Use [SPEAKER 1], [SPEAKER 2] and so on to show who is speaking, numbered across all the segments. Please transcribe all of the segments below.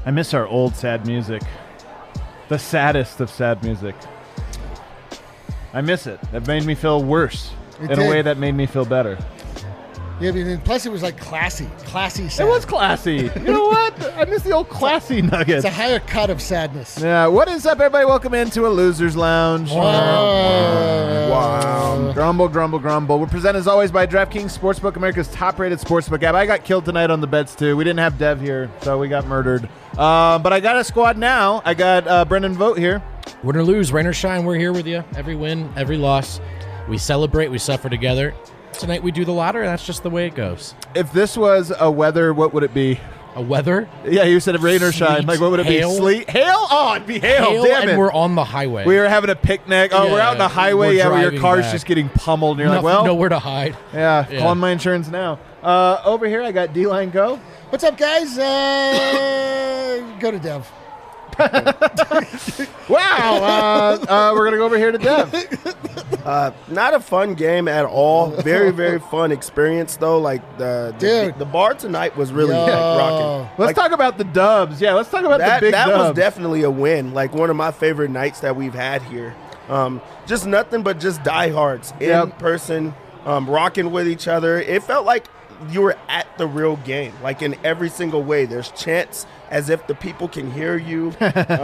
[SPEAKER 1] I miss our old sad music. The saddest of sad music. I miss it. It made me feel worse in a way that made me feel better.
[SPEAKER 2] Yeah, I mean, plus it was like classy sad.
[SPEAKER 1] It was classy. You know what? I miss the old classy Nuggets.
[SPEAKER 2] It's a higher cut of sadness.
[SPEAKER 1] Yeah. What is up, everybody? Welcome into a Loser's Lounge.
[SPEAKER 2] Wow.
[SPEAKER 1] Grumble, grumble, grumble. We're presented as always by DraftKings Sportsbook, America's top-rated sportsbook app. I got killed tonight on the bets too. We didn't have Dev here, so we got murdered. But I got a squad now. I got Brendan Vogt here.
[SPEAKER 3] Win or lose, rain or shine, we're here with you. Every win, every loss. We celebrate, we suffer together. Tonight we do the latter, and that's just the way it goes.
[SPEAKER 1] If this was a weather, what would it be?
[SPEAKER 3] A weather?
[SPEAKER 1] Yeah, you said rain or shine.
[SPEAKER 3] Sleet,
[SPEAKER 1] Like, what would it
[SPEAKER 3] hail.
[SPEAKER 1] be? Sleet? Hail? Oh, it'd be hail. Damn
[SPEAKER 3] and
[SPEAKER 1] it.
[SPEAKER 3] we're on the highway.
[SPEAKER 1] We were having a picnic. Oh, we're out on the highway.
[SPEAKER 3] we're
[SPEAKER 1] Yeah, where your
[SPEAKER 3] driving
[SPEAKER 1] car's
[SPEAKER 3] back.
[SPEAKER 1] just getting pummeled. And you're like, well,
[SPEAKER 3] nowhere to hide.
[SPEAKER 1] yeah,
[SPEAKER 3] Yeah.
[SPEAKER 1] calling my insurance now. Over here, I got D-Line Go.
[SPEAKER 2] What's up, guys? Go to Dev.
[SPEAKER 1] Wow. We're going to go over here to Dev.
[SPEAKER 4] Not a fun game at all. Very, very fun experience, though. Like, the bar tonight was really rocking.
[SPEAKER 1] Let's talk about the dubs. Yeah, let's talk about
[SPEAKER 4] That
[SPEAKER 1] the big dubs.
[SPEAKER 4] was definitely a win. Like, one of my favorite nights that we've had here. Just nothing but just diehards in person, rocking with each other. It felt like you were at the real game, like in every single way. There's chants as if the people can hear you.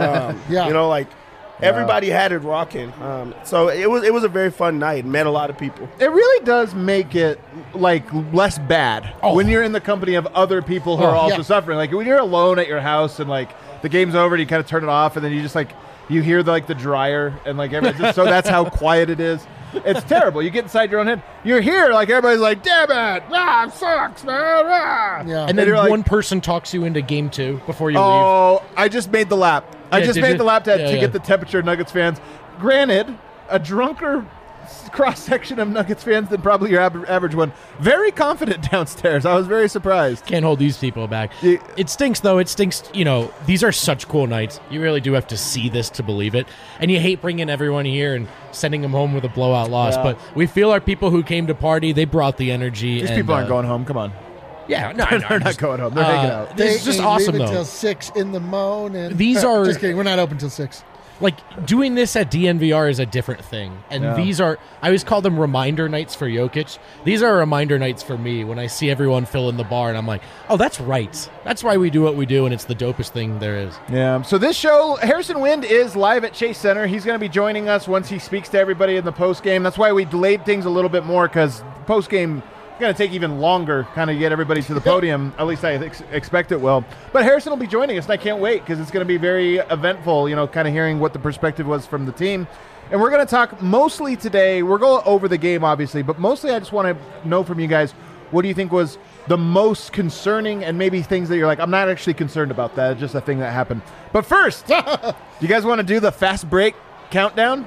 [SPEAKER 4] You know, like everybody had it rocking. So it was a very fun night. Met a lot of people.
[SPEAKER 1] It really does make it like less bad when you're in the company of other people who are also suffering. Like when you're alone at your house and like the game's over and you kind of turn it off and then you just like you hear the dryer and like everything. So that's how quiet it is. It's terrible. You get inside your own head. You're here, like everybody's like, damn it, it sucks, man.
[SPEAKER 2] Yeah.
[SPEAKER 3] And then
[SPEAKER 1] you're like,
[SPEAKER 3] one person talks you into game 2 before you leave.
[SPEAKER 1] Oh, I just made the lap. I just
[SPEAKER 3] did
[SPEAKER 1] made
[SPEAKER 3] you?
[SPEAKER 1] the lap to
[SPEAKER 3] Yeah.
[SPEAKER 1] get the temperature, Nuggets fans. Granted, a drunker cross-section of Nuggets fans than probably your average one. Very confident downstairs. I was very surprised.
[SPEAKER 3] Can't hold these people back.
[SPEAKER 1] Yeah.
[SPEAKER 3] It stinks, though. It stinks. You know, these are such cool nights. You really do have to see this to believe it. And you hate bringing everyone here and sending them home with a blowout loss.
[SPEAKER 1] Yeah.
[SPEAKER 3] But we feel our people who came to party, they brought the energy.
[SPEAKER 1] These
[SPEAKER 3] and,
[SPEAKER 1] people aren't going home. Come on.
[SPEAKER 3] Yeah, no,
[SPEAKER 1] They're not going home. They're hanging out.
[SPEAKER 3] This is just
[SPEAKER 2] ain't
[SPEAKER 3] awesome,
[SPEAKER 2] leaving
[SPEAKER 3] though.
[SPEAKER 2] Till 6 in the morning.
[SPEAKER 3] These are-
[SPEAKER 2] just kidding. We're not open till 6.
[SPEAKER 3] Like, doing this at DNVR is a different thing. And these are, I always call them reminder nights for Jokic. These are reminder nights for me when I see everyone fill in the bar and I'm like, oh, that's right. That's why we do what we do, and it's the dopest thing there is.
[SPEAKER 1] Yeah. So this show, Harrison Wind is live at Chase Center. He's going to be joining us once he speaks to everybody in the post game. That's why we delayed things a little bit more because post game going to take even longer, kind of get everybody to the podium. At least I expect it will. But Harrison will be joining us, and I can't wait because it's going to be very eventful, you know, kind of hearing what the perspective was from the team. And we're going to talk mostly today. We're going over the game, obviously, but mostly I just want to know from you guys, what do you think was the most concerning and maybe things that you're like, I'm not actually concerned about that. It's just a thing that happened. But first, do you guys want to do the fast break countdown?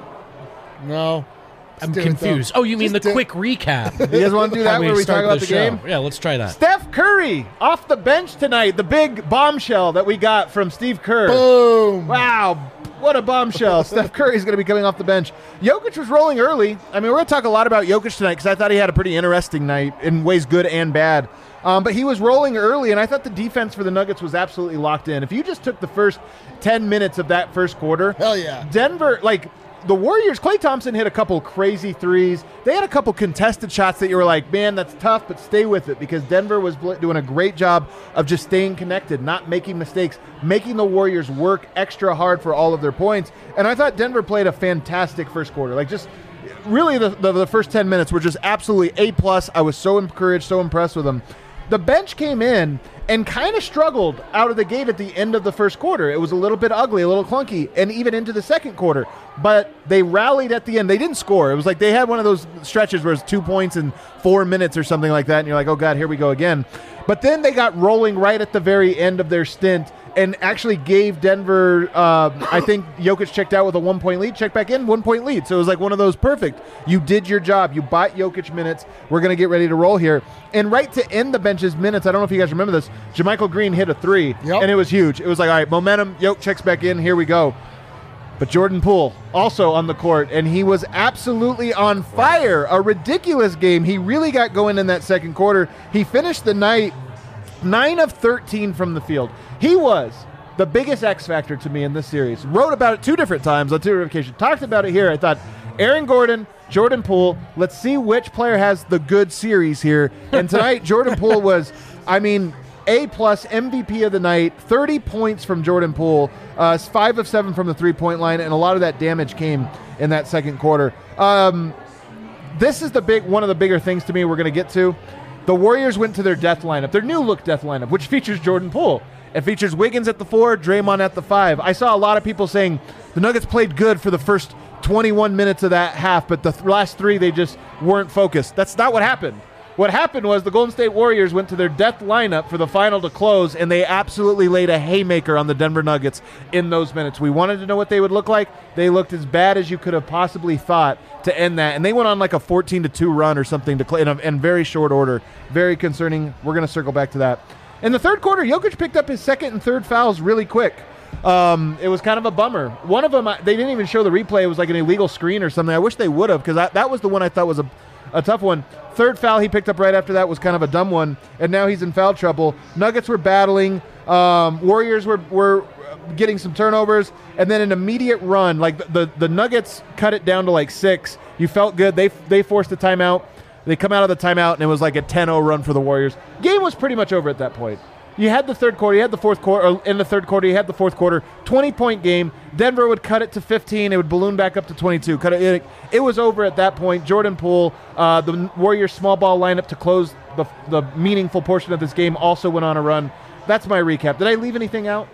[SPEAKER 2] No.
[SPEAKER 3] I'm
[SPEAKER 2] do it, though.
[SPEAKER 3] confused. Oh, you mean
[SPEAKER 2] Just
[SPEAKER 3] the
[SPEAKER 2] do-
[SPEAKER 3] quick recap?
[SPEAKER 1] You guys want to do that
[SPEAKER 3] How
[SPEAKER 1] where we talk
[SPEAKER 3] start
[SPEAKER 1] about the
[SPEAKER 3] show.
[SPEAKER 1] game?
[SPEAKER 3] Yeah, let's try that.
[SPEAKER 1] Steph Curry off the bench tonight. The big bombshell that we got from Steve Kerr.
[SPEAKER 2] Boom.
[SPEAKER 1] Wow, what a bombshell. Steph Curry's going to be coming off the bench. Jokic was rolling early. I mean, we're going to talk a lot about Jokic tonight because I thought he had a pretty interesting night in ways good and bad. But he was rolling early, and I thought the defense for the Nuggets was absolutely locked in. If you just took the first 10 minutes of that first quarter,
[SPEAKER 2] Hell yeah.
[SPEAKER 1] Denver, like, the Warriors, Klay Thompson hit a couple crazy threes. They had a couple contested shots that you were like, man, that's tough, but stay with it because Denver was doing a great job of just staying connected, not making mistakes, making the Warriors work extra hard for all of their points. And I thought Denver played a fantastic first quarter. Like, just really the first 10 minutes were just absolutely A+. I was so encouraged, so impressed with them. The bench came in and kind of struggled out of the gate at the end of the first quarter. It was a little bit ugly, a little clunky, and even into the second quarter. But they rallied at the end. They didn't score. It was like they had one of those stretches where it's 2 points in 4 minutes or something like that, and you're like, oh, God, here we go again. But then they got rolling right at the very end of their stint and actually gave Denver, I think Jokic checked out with a 1-point lead, checked back in, 1-point lead. So it was like one of those perfect. You did your job. You bought Jokic minutes. We're going to get ready to roll here. And right to end the bench's minutes, I don't know if you guys remember this, JaMychal Green hit a three, and it was huge. It was like, all right, momentum, Jokic checks back in, here we go. But Jordan Poole also on the court, and he was absolutely on fire. A ridiculous game. He really got going in that second quarter. He finished the night 9 of 13 from the field. He was the biggest X factor to me in this series. Wrote about it 2 different times on 2 different occasions. Talked about it here. I thought, Aaron Gordon, Jordan Poole, let's see which player has the good series here. And tonight, Jordan Poole was, A-plus MVP of the night, 30 points from Jordan Poole, 5 of 7 from the three-point line, and a lot of that damage came in that second quarter. This is one of the bigger things to me we're going to get to. The Warriors went to their death lineup, their new-look death lineup, which features Jordan Poole. It features Wiggins at the 4, Draymond at the 5. I saw a lot of people saying the Nuggets played good for the first 21 minutes of that half, but the last 3, they just weren't focused. That's not what happened. What happened was the Golden State Warriors went to their death lineup for the final to close, and they absolutely laid a haymaker on the Denver Nuggets in those minutes. We wanted to know what they would look like. They looked as bad as you could have possibly thought to end that, and they went on like a 14-2 run or something in very short order. Very concerning. We're going to circle back to that. In the third quarter, Jokic picked up his second and third fouls really quick. It was kind of a bummer. One of them, they didn't even show the replay. It was like an illegal screen or something. I wish they would have, because that was the one I thought was a tough one. Third foul he picked up right after that was kind of a dumb one, and now he's in foul trouble. Nuggets were battling. Warriors were getting some turnovers, and then an immediate run. Like the Nuggets cut it down to like 6. You felt good. They forced a timeout. They come out of the timeout, and it was like a 10-0 run for the Warriors. Game was pretty much over at that point. You had the third quarter, you had the fourth quarter, or in the third quarter, you had the fourth quarter, 20-point game. Denver would cut it to 15. It would balloon back up to 22. It was over at that point. Jordan Poole, the Warriors' small ball lineup to close the meaningful portion of this game, also went on a run. That's my recap. Did I leave anything out?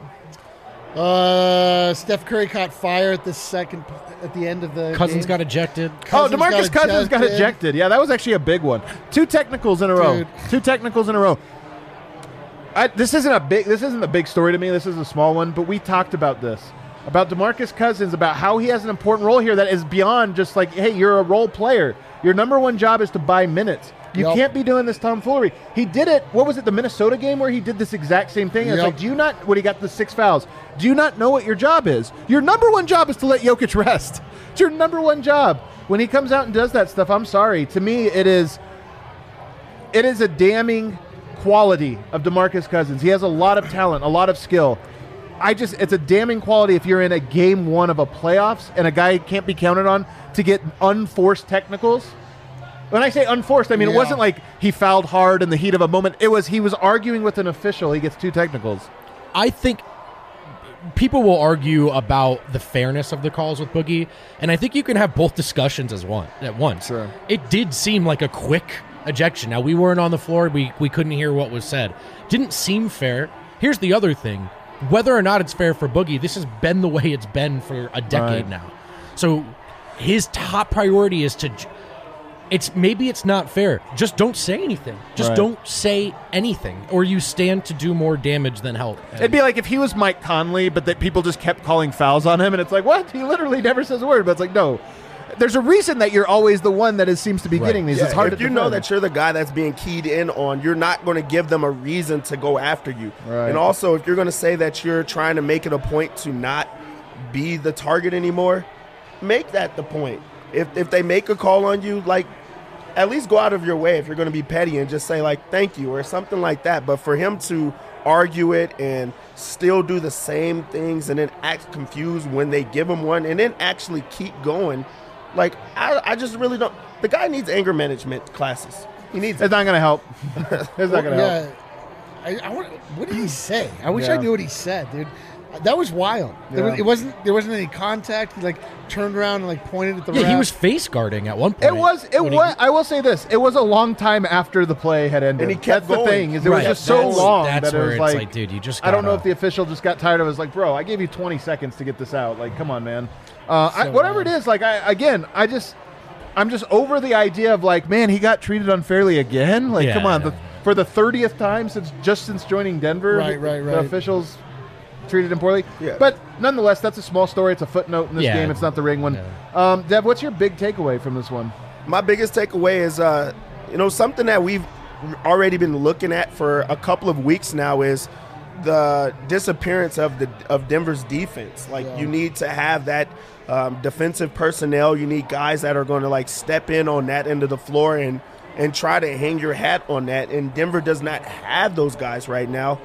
[SPEAKER 2] Steph Curry caught fire at the end of the
[SPEAKER 3] Cousins
[SPEAKER 2] game.
[SPEAKER 3] got ejected.
[SPEAKER 1] DeMarcus Cousins got ejected. Yeah, that was actually a big one. 2 technicals in a row. 2 technicals in a row. This isn't a big story to me. This is a small one, but we talked about this. About DeMarcus Cousins, about how he has an important role here that is beyond just like, hey, you're a role player. Your number one job is to buy minutes. You can't be doing this tomfoolery. He did it. What was it, the Minnesota game where he did this exact same thing? It's like, do you not, when he got the 6 fouls, do you not know what your job is? Your number one job is to let Jokic rest. It's your number one job. When he comes out and does that stuff, I'm sorry. To me, it is a damning quality of DeMarcus Cousins. He has a lot of talent, a lot of skill. It's a damning quality if you're in a game 1 of a playoffs and a guy can't be counted on to get unforced technicals. When I say unforced, I mean, It wasn't like he fouled hard in the heat of a moment. It was he was arguing with an official. He gets 2 technicals.
[SPEAKER 3] I think people will argue about the fairness of the calls with Boogie, and I think you can have both discussions at once.
[SPEAKER 1] Sure.
[SPEAKER 3] It did seem like a quick ejection. Now, we weren't on the floor. We couldn't hear what was said. Didn't seem fair. Here's the other thing. Whether or not it's fair for Boogie, this has been the way it's been for a decade now. So his top priority is to... Maybe it's not fair. Just don't say anything. Just don't say anything, or you stand to do more damage than help.
[SPEAKER 1] It'd be like if he was Mike Conley, but that people just kept calling fouls on him, and it's like, what? He literally never says a word. But it's like, no. There's a reason that you're always the one that seems to be getting these.
[SPEAKER 4] Yeah,
[SPEAKER 1] it's hard
[SPEAKER 4] if
[SPEAKER 1] to
[SPEAKER 4] you know that you're the guy that's being keyed in on, you're not going to give them a reason to go after you.
[SPEAKER 1] Right.
[SPEAKER 4] And also, if you're going to say that you're trying to make it a point to not be the target anymore, make that the point. If they make a call on you, like, at least go out of your way if you're going to be petty and just say, like, thank you or something like that. But for him to argue it and still do the same things and then act confused when they give him one and then actually keep going, like, I just really don't. The guy needs anger management classes. He needs
[SPEAKER 1] It's not going to help. It's not going to help.
[SPEAKER 2] What did he say? I wish I knew what he said, dude. That was wild.
[SPEAKER 1] Yeah.
[SPEAKER 2] There wasn't any contact. He turned around and pointed at the ref.
[SPEAKER 3] He was face guarding at one point.
[SPEAKER 1] It was. I will say this. It was a long time after the play had ended.
[SPEAKER 4] And he kept
[SPEAKER 1] That's
[SPEAKER 4] going.
[SPEAKER 1] the thing. It was just so long
[SPEAKER 3] That's
[SPEAKER 1] that it
[SPEAKER 3] where
[SPEAKER 1] was
[SPEAKER 3] it's
[SPEAKER 1] like,
[SPEAKER 3] dude, you just.
[SPEAKER 1] I don't know if the official just got tired of it. It was like, bro, I gave you 20 seconds to get this out. Like, come on, man. Whatever it is, I'm just over the idea of like, man, he got treated unfairly again. Like, come on, for the 30th time since joining Denver, the officials treated him poorly.
[SPEAKER 4] Yeah.
[SPEAKER 1] But nonetheless, that's a small story. It's a footnote in this game. It's not the ring one.
[SPEAKER 3] Yeah.
[SPEAKER 1] Dev, what's your big takeaway from this one?
[SPEAKER 4] My biggest takeaway is, something that we've already been looking at for a couple of weeks now is the disappearance of Denver's defense. You need to have that defensive personnel. You need guys that are going to step in on that end of the floor and try to hang your hat on that. And Denver does not have those guys right now.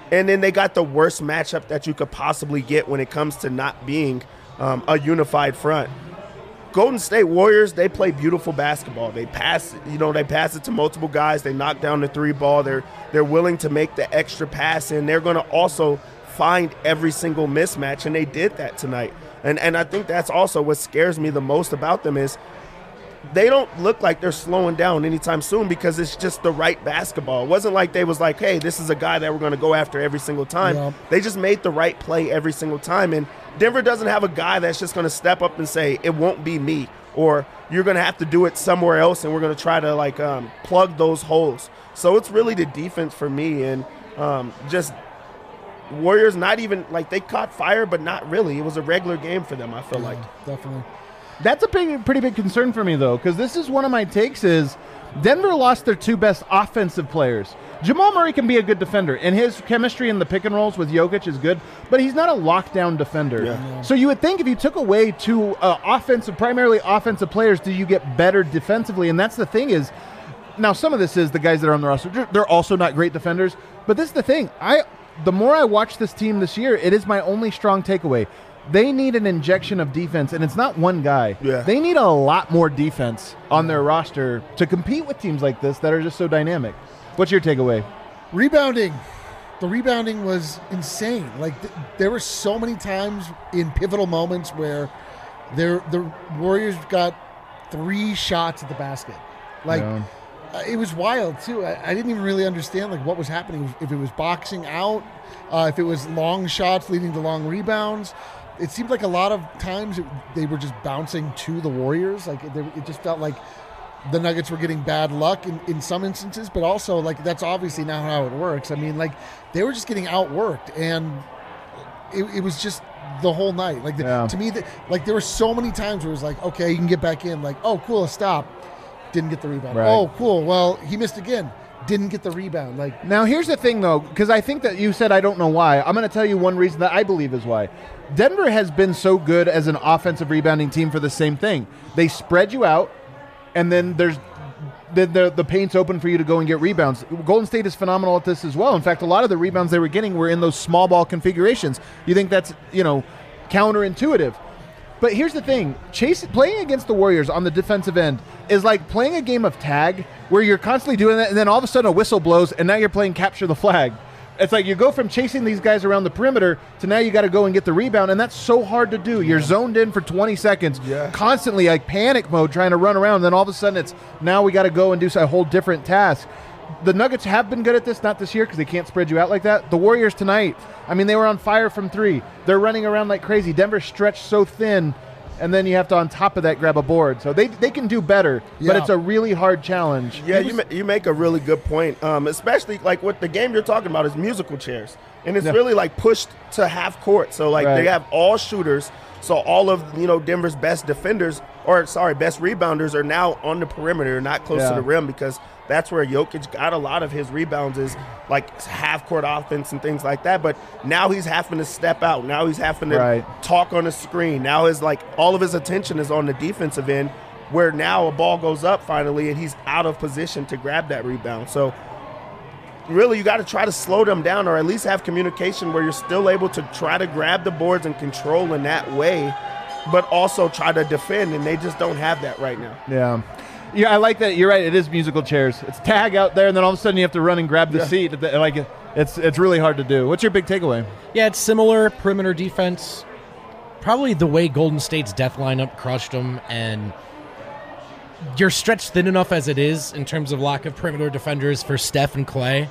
[SPEAKER 4] And then they got the worst matchup that you could possibly get when it comes to not being a unified front. Golden State Warriors, they play beautiful basketball. They pass, they pass it to multiple guys. They knock down the three ball. They're willing to make the extra pass, and they're going to also find every single mismatch, and they did that tonight. And I think that's also what scares me the most about them is they don't look like they're slowing down anytime soon because it's just the right basketball. It wasn't like they was like, hey, this is a guy that we're going to go after every single time. Yeah. They just made the right play every single time. And Denver doesn't have a guy that's just going to step up and say, it won't be me, or you're going to have to do it somewhere else, and we're going to try to plug those holes. So it's really the defense for me, and just Warriors not even they caught fire, but not really. It was a regular game for them, I feel like.
[SPEAKER 2] Definitely.
[SPEAKER 1] That's a pretty big concern for me, though, because this is one of my takes is Denver lost their two best offensive players. Jamal Murray can be a good defender, and his chemistry in the pick and rolls with Jokic is good, but he's not a lockdown defender. Yeah. So you would think if you took away two primarily offensive players, do you get better defensively? And that's the thing is, now some of this is the guys that are on the roster, they're also not great defenders, but this is the thing. The more I watch this team this year, it is my only strong takeaway. They need an injection of defense, and it's not one guy.
[SPEAKER 4] Yeah.
[SPEAKER 1] They need a lot more defense on their roster to compete with teams like this that are just so dynamic. What's your takeaway?
[SPEAKER 2] Rebounding. The rebounding was insane. There were so many times in pivotal moments where the Warriors got 3 shots at the basket. It was wild, too. I didn't even really understand what was happening, if it was boxing out, if it was long shots leading to long rebounds. It seemed like a lot of times they were just bouncing to the Warriors. It just felt like the Nuggets were getting bad luck in some instances, but also that's obviously not how it works. I mean, they were just getting outworked, and it was just the whole night. To me, there were so many times where it was okay, you can get back in. Oh, cool, a stop. Didn't get the rebound. Right. Oh, cool. Well, he missed again. Didn't get the rebound.
[SPEAKER 1] Now, here's the thing, though, because I think that you said I don't know why. I'm going to tell you one reason that I believe is why. Denver has been so good as an offensive rebounding team for the same thing. They spread you out, and then the paint's open for you to go and get rebounds. Golden State is phenomenal at this as well. In fact, a lot of the rebounds they were getting were in those small ball configurations. You think that's, counterintuitive. But here's the thing. Playing against the Warriors on the defensive end is like playing a game of tag where you're constantly doing that, and then all of a sudden a whistle blows, and now you're playing capture the flag. It's like you go from chasing these guys around the perimeter to now you got to go and get the rebound, and that's so hard to do. You're zoned in for 20 seconds, constantly panic mode trying to run around, and then all of a sudden it's now we got to go and do a whole different task. The Nuggets have been good at this, not this year because they can't spread you out like that. The Warriors tonight, they were on fire from 3. They're running around like crazy. Denver stretched so thin, and then you have to, on top of that, grab a board. So they can do better, but it's a really hard challenge.
[SPEAKER 4] Yeah, you make a really good point, especially what the game you're talking about is musical chairs. And it's really pushed to half court. So they have all shooters. So all of Denver's best defenders, best rebounders are now on the perimeter, not close to the rim, because that's where Jokic got a lot of his rebounds is half-court offense and things like that. But now he's having to step out. Now he's having to talk on the screen. Now all of his attention is on the defensive end, where now a ball goes up finally and he's out of position to grab that rebound. So really you got to try to slow them down, or at least have communication where you're still able to try to grab the boards and control in that way, but also try to defend, and they just don't have that right now.
[SPEAKER 1] Yeah, I like that. You're right. It is musical chairs. It's tag out there, and then all of a sudden you have to run and grab the seat. It's really hard to do. What's your big takeaway?
[SPEAKER 3] Yeah, it's similar perimeter defense. Probably the way Golden State's death lineup crushed them, and you're stretched thin enough as it is in terms of lack of perimeter defenders for Steph and Clay.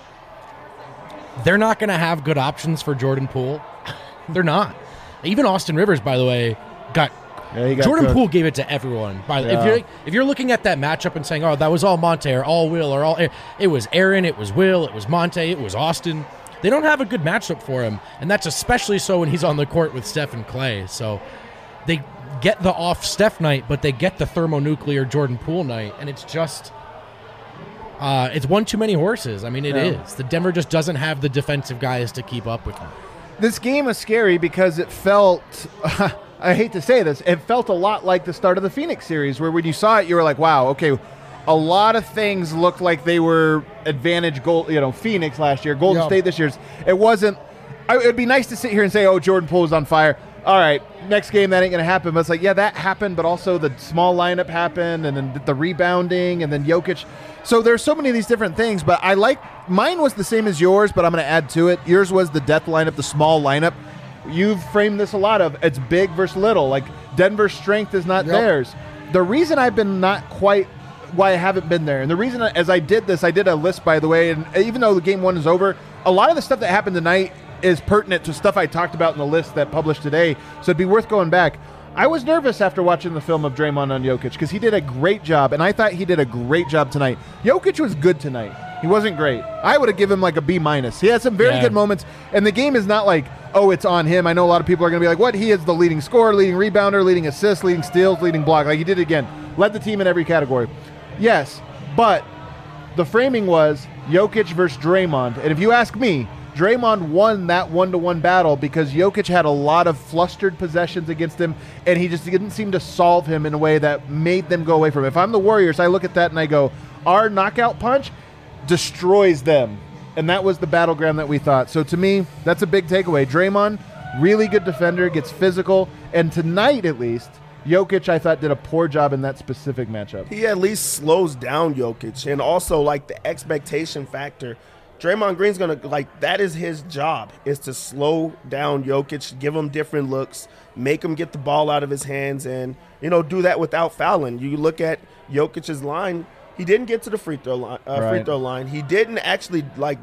[SPEAKER 3] They're not going to have good options for Jordan Poole. They're not. Even Austin Rivers, by the way, got Jordan Poole gave it to everyone. If you're looking at that matchup and saying, "Oh, that was all Monte or all Will or all," it was Aaron, it was Will, it was Monte, it was Austin. They don't have a good matchup for him, and that's especially so when he's on the court with Steph and Clay. So they get the off Steph night, but they get the thermonuclear Jordan Poole night, and it's just it's one too many horses. It is. The Denver just doesn't have the defensive guys to keep up with them.
[SPEAKER 1] This game was scary because it felt. I hate to say this, it felt a lot like the start of the Phoenix series, where when you saw it, you were like, wow, okay, a lot of things looked like they were advantage Phoenix last year, Golden State this year's. It wasn't. It would be nice to sit here and say, oh, Jordan Poole is on fire. All right, next game, that ain't going to happen. But it's like, yeah, that happened, but also the small lineup happened, and then the rebounding, and then Jokic. So there's so many of these different things, but mine was the same as yours, but I'm going to add to it. Yours was the death lineup, the small lineup. You've framed this a lot of, it's big versus little. Like, Denver's strength is not theirs. The reason I've been not quite why I haven't been there, and the reason as I did this, I did a list, by the way, and even though the game 1 is over, a lot of the stuff that happened tonight is pertinent to stuff I talked about in the list that published today, so it'd be worth going back. I was nervous after watching the film of Draymond on Jokic because he did a great job, and I thought he did a great job tonight. Jokic was good tonight. He wasn't great. I would have given him like a B-. He had some very good moments, and the game is not like, oh, it's on him. I know a lot of people are going to be like, what? He is the leading scorer, leading rebounder, leading assist, leading steals, leading block. Like, he did it again. Led the team in every category. Yes, but the framing was Jokic versus Draymond, and if you ask me, Draymond won that one-to-one battle because Jokic had a lot of flustered possessions against him, and he just didn't seem to solve him in a way that made them go away from him. If I'm the Warriors, I look at that and I go, our knockout punch destroys them, and that was the battleground that we thought. So to me, that's a big takeaway. Draymond, really good defender, gets physical, and tonight at least, Jokic, I thought, did a poor job in that specific matchup.
[SPEAKER 4] He at least slows down Jokic, and also, like, the expectation factor. Draymond Green's going to, like, that is his job, is to slow down Jokic, give him different looks, make him get the ball out of his hands, and, do that without fouling. You look at Jokic's line, he didn't get to the free throw line. He didn't actually,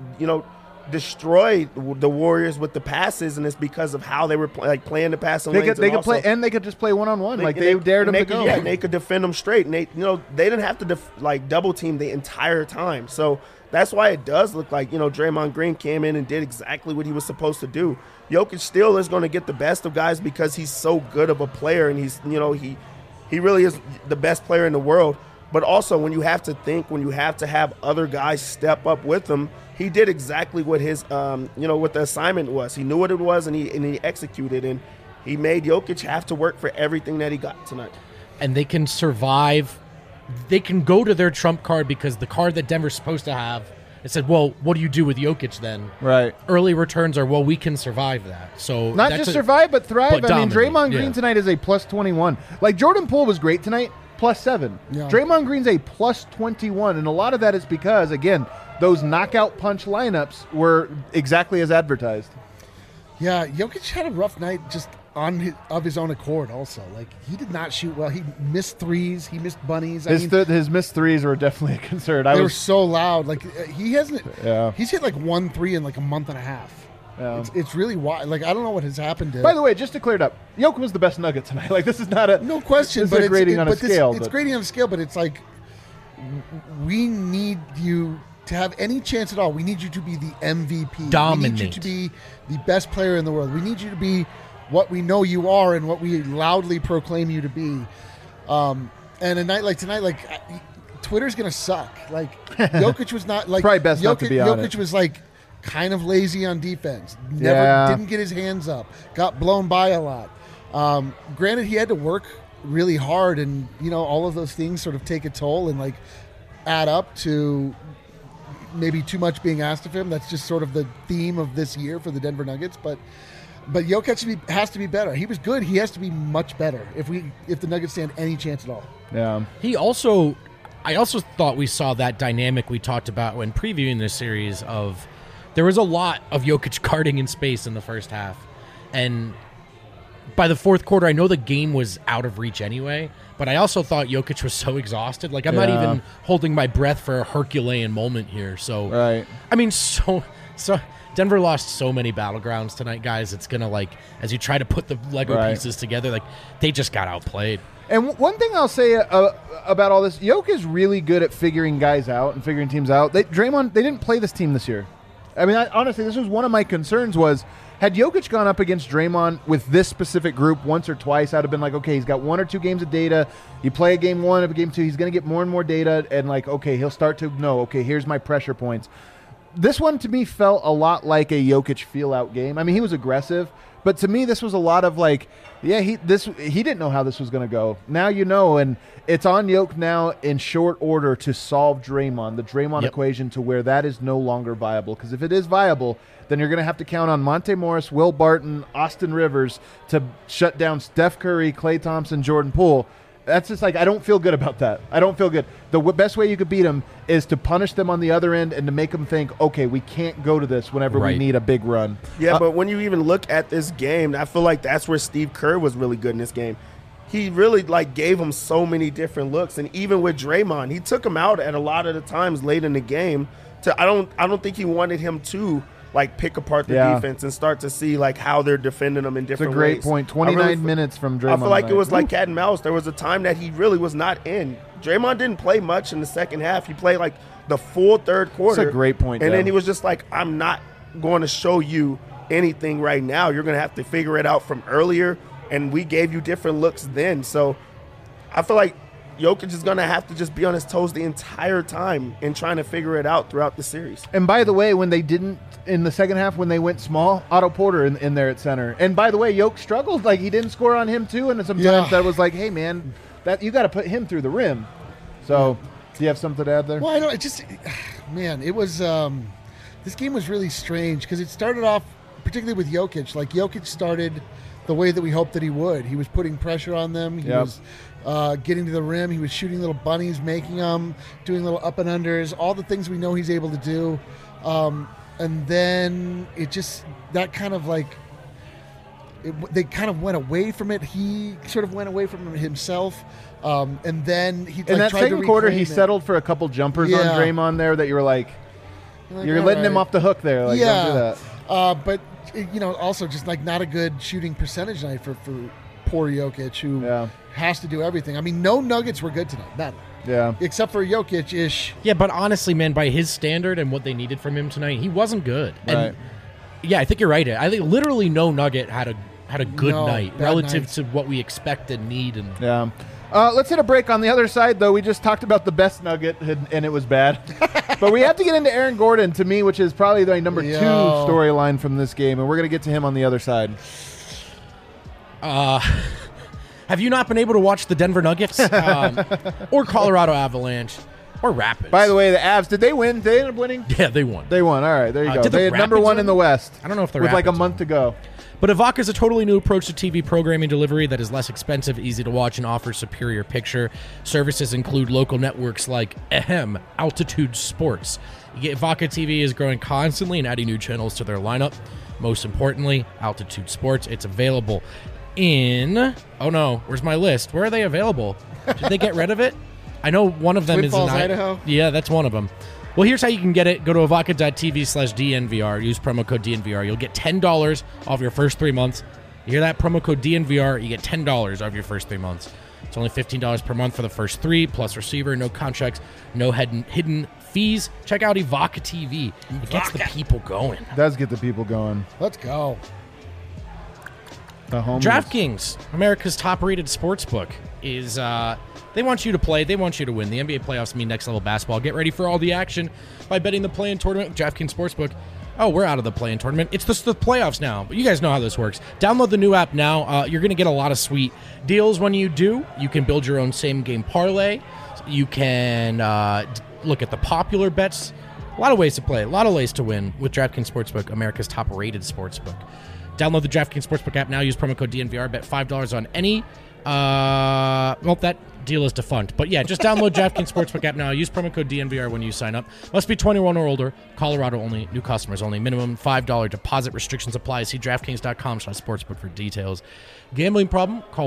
[SPEAKER 4] destroy the Warriors with the passes, and it's because of how they were playing the passing lanes.
[SPEAKER 1] They could play, and they could just play one-on-one. They dared them to go.
[SPEAKER 4] Yeah, they could defend them straight, and they didn't have to double team the entire time. So that's why it does look like, Draymond Green came in and did exactly what he was supposed to do. Jokic still is going to get the best of guys because he's so good of a player, and he's, he really is the best player in the world. But also, when you have to have other guys step up with him, he did exactly what his, what the assignment was. He knew what it was, and he executed, and he made Jokic have to work for everything that he got tonight.
[SPEAKER 3] And they can survive. They can go to their trump card because the card that Denver's supposed to have, it said, well, what do you do with Jokic then?
[SPEAKER 1] Right.
[SPEAKER 3] Early returns are, well, we can survive that. So
[SPEAKER 1] not just survive, but thrive.
[SPEAKER 3] But
[SPEAKER 1] Draymond Green tonight is a plus 21. Like, Jordan Poole was great tonight. +7. Yeah. Draymond Green's a +21, and a lot of that is because, again, those knockout punch lineups were exactly as advertised.
[SPEAKER 2] Yeah, Jokic had a rough night just of his own accord also. Like, he did not shoot well. He missed threes. He missed bunnies.
[SPEAKER 1] His missed threes were definitely a concern.
[SPEAKER 2] They were so loud. Like, he hasn't – he's hit like 1 3 in like a month and a half. Yeah. It's really wild. Like, I don't know what has happened to.
[SPEAKER 1] By the way, just to clear it up, Jokic was the best Nugget tonight. Like, this is not a
[SPEAKER 2] no question.
[SPEAKER 1] But it's grading on a scale.
[SPEAKER 2] It's grading on a scale, but it's like we need you to have any chance at all. We need you to be the MVP.
[SPEAKER 3] Dominate.
[SPEAKER 2] We need you to be the best player in the world. We need you to be what we know you are and what we loudly proclaim you to be. And a night like tonight, like Twitter's gonna suck. Like, Jokic was not like
[SPEAKER 1] probably best not to be on it.
[SPEAKER 2] Jokic was like kind of lazy on defense. Didn't get his hands up. Got blown by a lot. Granted, he had to work really hard, and all of those things sort of take a toll and like add up to maybe too much being asked of him. That's just sort of the theme of this year for the Denver Nuggets. But Jokic has to be better. He was good. He has to be much better if the Nuggets stand any chance at all.
[SPEAKER 1] Yeah.
[SPEAKER 3] I also thought we saw that dynamic we talked about when previewing this series of. There was a lot of Jokic guarding in space in the first half. And by the fourth quarter, I know the game was out of reach anyway, but I also thought Jokic was so exhausted. Like, I'm not even holding my breath for a Herculean moment here. So,
[SPEAKER 1] right.
[SPEAKER 3] I mean, so Denver lost so many battlegrounds tonight, guys. It's going to, like, as you try to put the Lego pieces together, like, they just got outplayed.
[SPEAKER 1] And one thing I'll say about all this, Jokic is really good at figuring guys out and figuring teams out. Draymond, they didn't play this team this year. I mean, honestly, this was one of my concerns was, had Jokic gone up against Draymond with this specific group once or twice, I'd have been like, okay, he's got 1 or 2 games of data. You play a game 1, a game 2, he's going to get more and more data, and like, okay, he'll start to know, okay, here's my pressure points. This one to me felt a lot like a Jokic feel-out game. I mean, he was aggressive, but to me this was a lot of like, yeah, he didn't know how this was going to go. Now you know, and it's on Jokic now in short order to solve the Draymond equation to where that is no longer viable. Because if it is viable, then you're going to have to count on Monte Morris, Will Barton, Austin Rivers to shut down Steph Curry, Klay Thompson, Jordan Poole. That's just like, I don't feel good about that. I don't feel good. The best way you could beat them is to punish them on the other end and to make them think, okay, we can't go to this whenever we need a big run.
[SPEAKER 4] Yeah, but when you even look at this game, I feel like that's where Steve Kerr was really good in this game. He really like gave him so many different looks, and even with Draymond, he took him out at a lot of the times late in the game. I don't think he wanted him to like pick apart the defense and start to see like how they're defending them in different ways.
[SPEAKER 1] It's a great point. 29 minutes from Draymond.
[SPEAKER 4] I feel like it was like cat and mouse. There was a time that he really was not in. Draymond didn't play much in the second half. He played like the full third quarter.
[SPEAKER 1] That's a great point.
[SPEAKER 4] And then he was just like, I'm not going to show you anything right now. You're going to have to figure it out from earlier. And we gave you different looks then. So I feel like Jokic is going to have to just be on his toes the entire time in trying to figure it out throughout the series.
[SPEAKER 1] And by the way, when they didn't in the second half, when they went small, Otto Porter in there at center. And by the way, Jokic struggled. Like, he didn't score on him too. And sometimes that was like, hey, man, that you got to put him through the rim. So do you have something to add there?
[SPEAKER 2] Well, I know. It just, man, it was this game was really strange because it started off, particularly with Jokic. Like, Jokic started the way that we hoped that he would. He was putting pressure on them. He was getting to the rim. He was shooting little bunnies, making them, doing little up and unders, all the things we know he's able to do. And then it just, that kind of like, they kind of went away from it. He sort of went away from it himself. And then he
[SPEAKER 1] in that second quarter, he settled for a couple jumpers on Draymond there that you were like you're letting him off the hook there. Like, don't do that.
[SPEAKER 2] But, you know, also just like not a good shooting percentage night for poor Jokic, who has to do everything. I mean, no Nuggets were good tonight. None.
[SPEAKER 1] Yeah.
[SPEAKER 2] Except for Jokic-ish.
[SPEAKER 3] Yeah, but honestly, man, by his standard and what they needed from him tonight, he wasn't good. And yeah, I think you're right. I think literally no Nugget had a good night relative to what we expect and need. And
[SPEAKER 1] let's hit a break. On the other side, though, we just talked about the best Nugget, and it was bad. But we have to get into Aaron Gordon, to me, which is probably the number 2 storyline from this game, and we're going to get to him on the other side.
[SPEAKER 3] Have you not been able to watch the Denver Nuggets or Colorado Avalanche or Rapids?
[SPEAKER 1] By the way, the Avs, did they win? Did they end up winning?
[SPEAKER 3] Yeah, they won.
[SPEAKER 1] They won. All right, there you go. They had number 1 in the West.
[SPEAKER 3] I don't know if they're
[SPEAKER 1] with like a month to go.
[SPEAKER 3] But Evoca is a totally new approach to TV programming delivery that is less expensive, easy to watch, and offers superior picture. Services include local networks like Altitude Sports. Evoca TV is growing constantly and adding new channels to their lineup. Most importantly, Altitude Sports. It's available in... Oh, no. Where's my list? Where are they available? Did they get rid of it? I know one of them
[SPEAKER 2] Twin
[SPEAKER 3] is
[SPEAKER 2] Falls,
[SPEAKER 3] in
[SPEAKER 2] Idaho.
[SPEAKER 3] Yeah, that's one of them. Well, here's how you can get it. Go to evoca.tv/DNVR. Use promo code DNVR. You'll get $10 off your first 3 months. You hear that? Promo code DNVR. You get $10 off your first 3 months. It's only $15 per month for the first 3, plus receiver, no contracts, no hidden fees. Check out Evoca TV. It gets the people going.
[SPEAKER 1] It does get the people going.
[SPEAKER 2] Let's go.
[SPEAKER 3] DraftKings, America's top-rated sportsbook, is they want you to play. They want you to win. The NBA playoffs mean next-level basketball. Get ready for all the action by betting the play-in tournament with DraftKings Sportsbook. Oh, we're out of the play-in tournament. It's the playoffs now, but you guys know how this works. Download the new app now. You're going to get a lot of sweet deals when you do. You can build your own same-game parlay. You can look at the popular bets. A lot of ways to play. A lot of ways to win with DraftKings Sportsbook, America's top-rated sportsbook. Download the DraftKings Sportsbook app now. Use promo code DNVR. Bet $5 on any. Well, that deal is defunct. But yeah, just download DraftKings Sportsbook app now. Use promo code DNVR when you sign up. Must be 21 or older. Colorado only. New customers only. Minimum $5 deposit. Restrictions apply. See DraftKings.com/sportsbook for details. Gambling problem? Call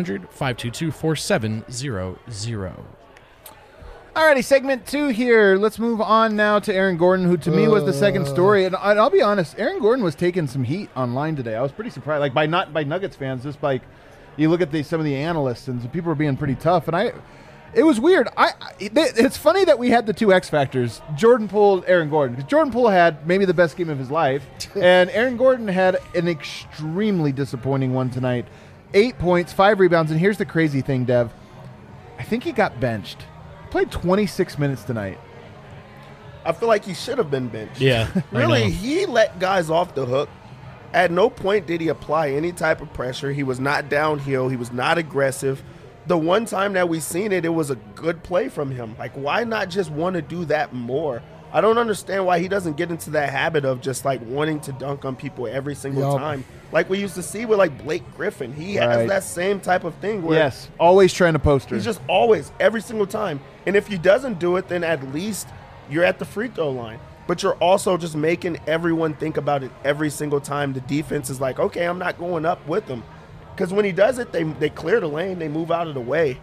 [SPEAKER 3] 1-800-522-4700.
[SPEAKER 1] Alrighty, segment 2 here. Let's move on now to Aaron Gordon, who to me was the second story. And I'll be honest, Aaron Gordon was taking some heat online today. I was pretty surprised, like by Nuggets fans, just like you look at some of the analysts and some people are being pretty tough. And it was weird. It's funny that we had the 2 X factors: Jordan Poole, Aaron Gordon. Because Jordan Poole had maybe the best game of his life, and Aaron Gordon had an extremely disappointing one tonight. 8 points, 5 rebounds, and here's the crazy thing, Dev. I think he got benched. Played 26 minutes tonight.
[SPEAKER 4] I feel like he should have been benched.
[SPEAKER 3] Yeah,
[SPEAKER 4] Really, he let guys off the hook. At no point did he apply any type of pressure. He was not downhill. He was not aggressive. The one time that we seen it, it was a good play from him. Like, why not just want to do that more? I don't understand why he doesn't get into that habit of just, like, wanting to dunk on people every single time. Like we used to see with, like, Blake Griffin. He has that same type of thing where
[SPEAKER 1] yes, always trying to poster.
[SPEAKER 4] he's just always, every single time. And if he doesn't do it, then at least you're at the free throw line. But you're also just making everyone think about it every single time. The defense is like, okay, I'm not going up with them. Because when he does it, they clear the lane. They move out of the way.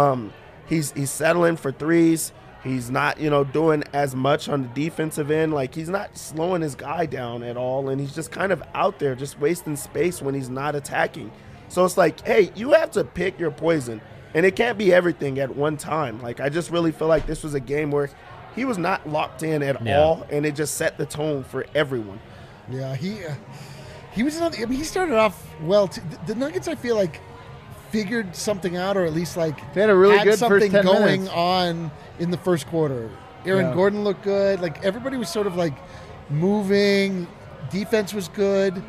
[SPEAKER 4] He's settling for threes. He's not, doing as much on the defensive end. Like, he's not slowing his guy down at all. And he's just kind of out there just wasting space when he's not attacking. So it's like, hey, you have to pick your poison. And it can't be everything at one time. Like, I just really feel like this was a game where he was not locked in at all. And it just set the tone for everyone.
[SPEAKER 2] Yeah, he was another. I mean, he started off well. The Nuggets, I feel like, figured something out, or at least like
[SPEAKER 1] they had a really good
[SPEAKER 2] something
[SPEAKER 1] first 10
[SPEAKER 2] going
[SPEAKER 1] minutes
[SPEAKER 2] on in the first quarter. Aaron Gordon looked good. Like everybody was sort of like moving. Defense was good.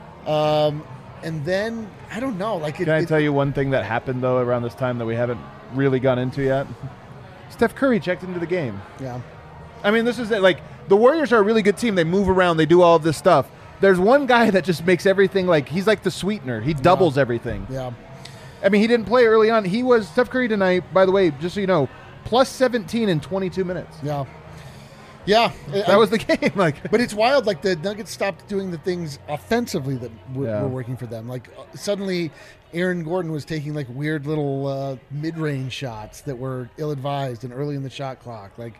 [SPEAKER 2] And then I don't know. Like,
[SPEAKER 1] can I tell you one thing that happened though around this time that we haven't really gone into yet? Steph Curry checked into the game.
[SPEAKER 2] Yeah.
[SPEAKER 1] I mean, this is it. Like, the Warriors are a really good team. They move around. They do all of this stuff. There's one guy that just makes everything like he's like the sweetener. He doubles everything.
[SPEAKER 2] Yeah.
[SPEAKER 1] I mean, he didn't play early on. He was Steph Curry tonight, by the way, just so you know, plus 17 in 22 minutes.
[SPEAKER 2] Yeah. Yeah.
[SPEAKER 1] That was the game. Like,
[SPEAKER 2] but it's wild. Like, the Nuggets stopped doing the things offensively that were working for them. Like, suddenly Aaron Gordon was taking like weird little mid-range shots that were ill-advised and early in the shot clock. Like,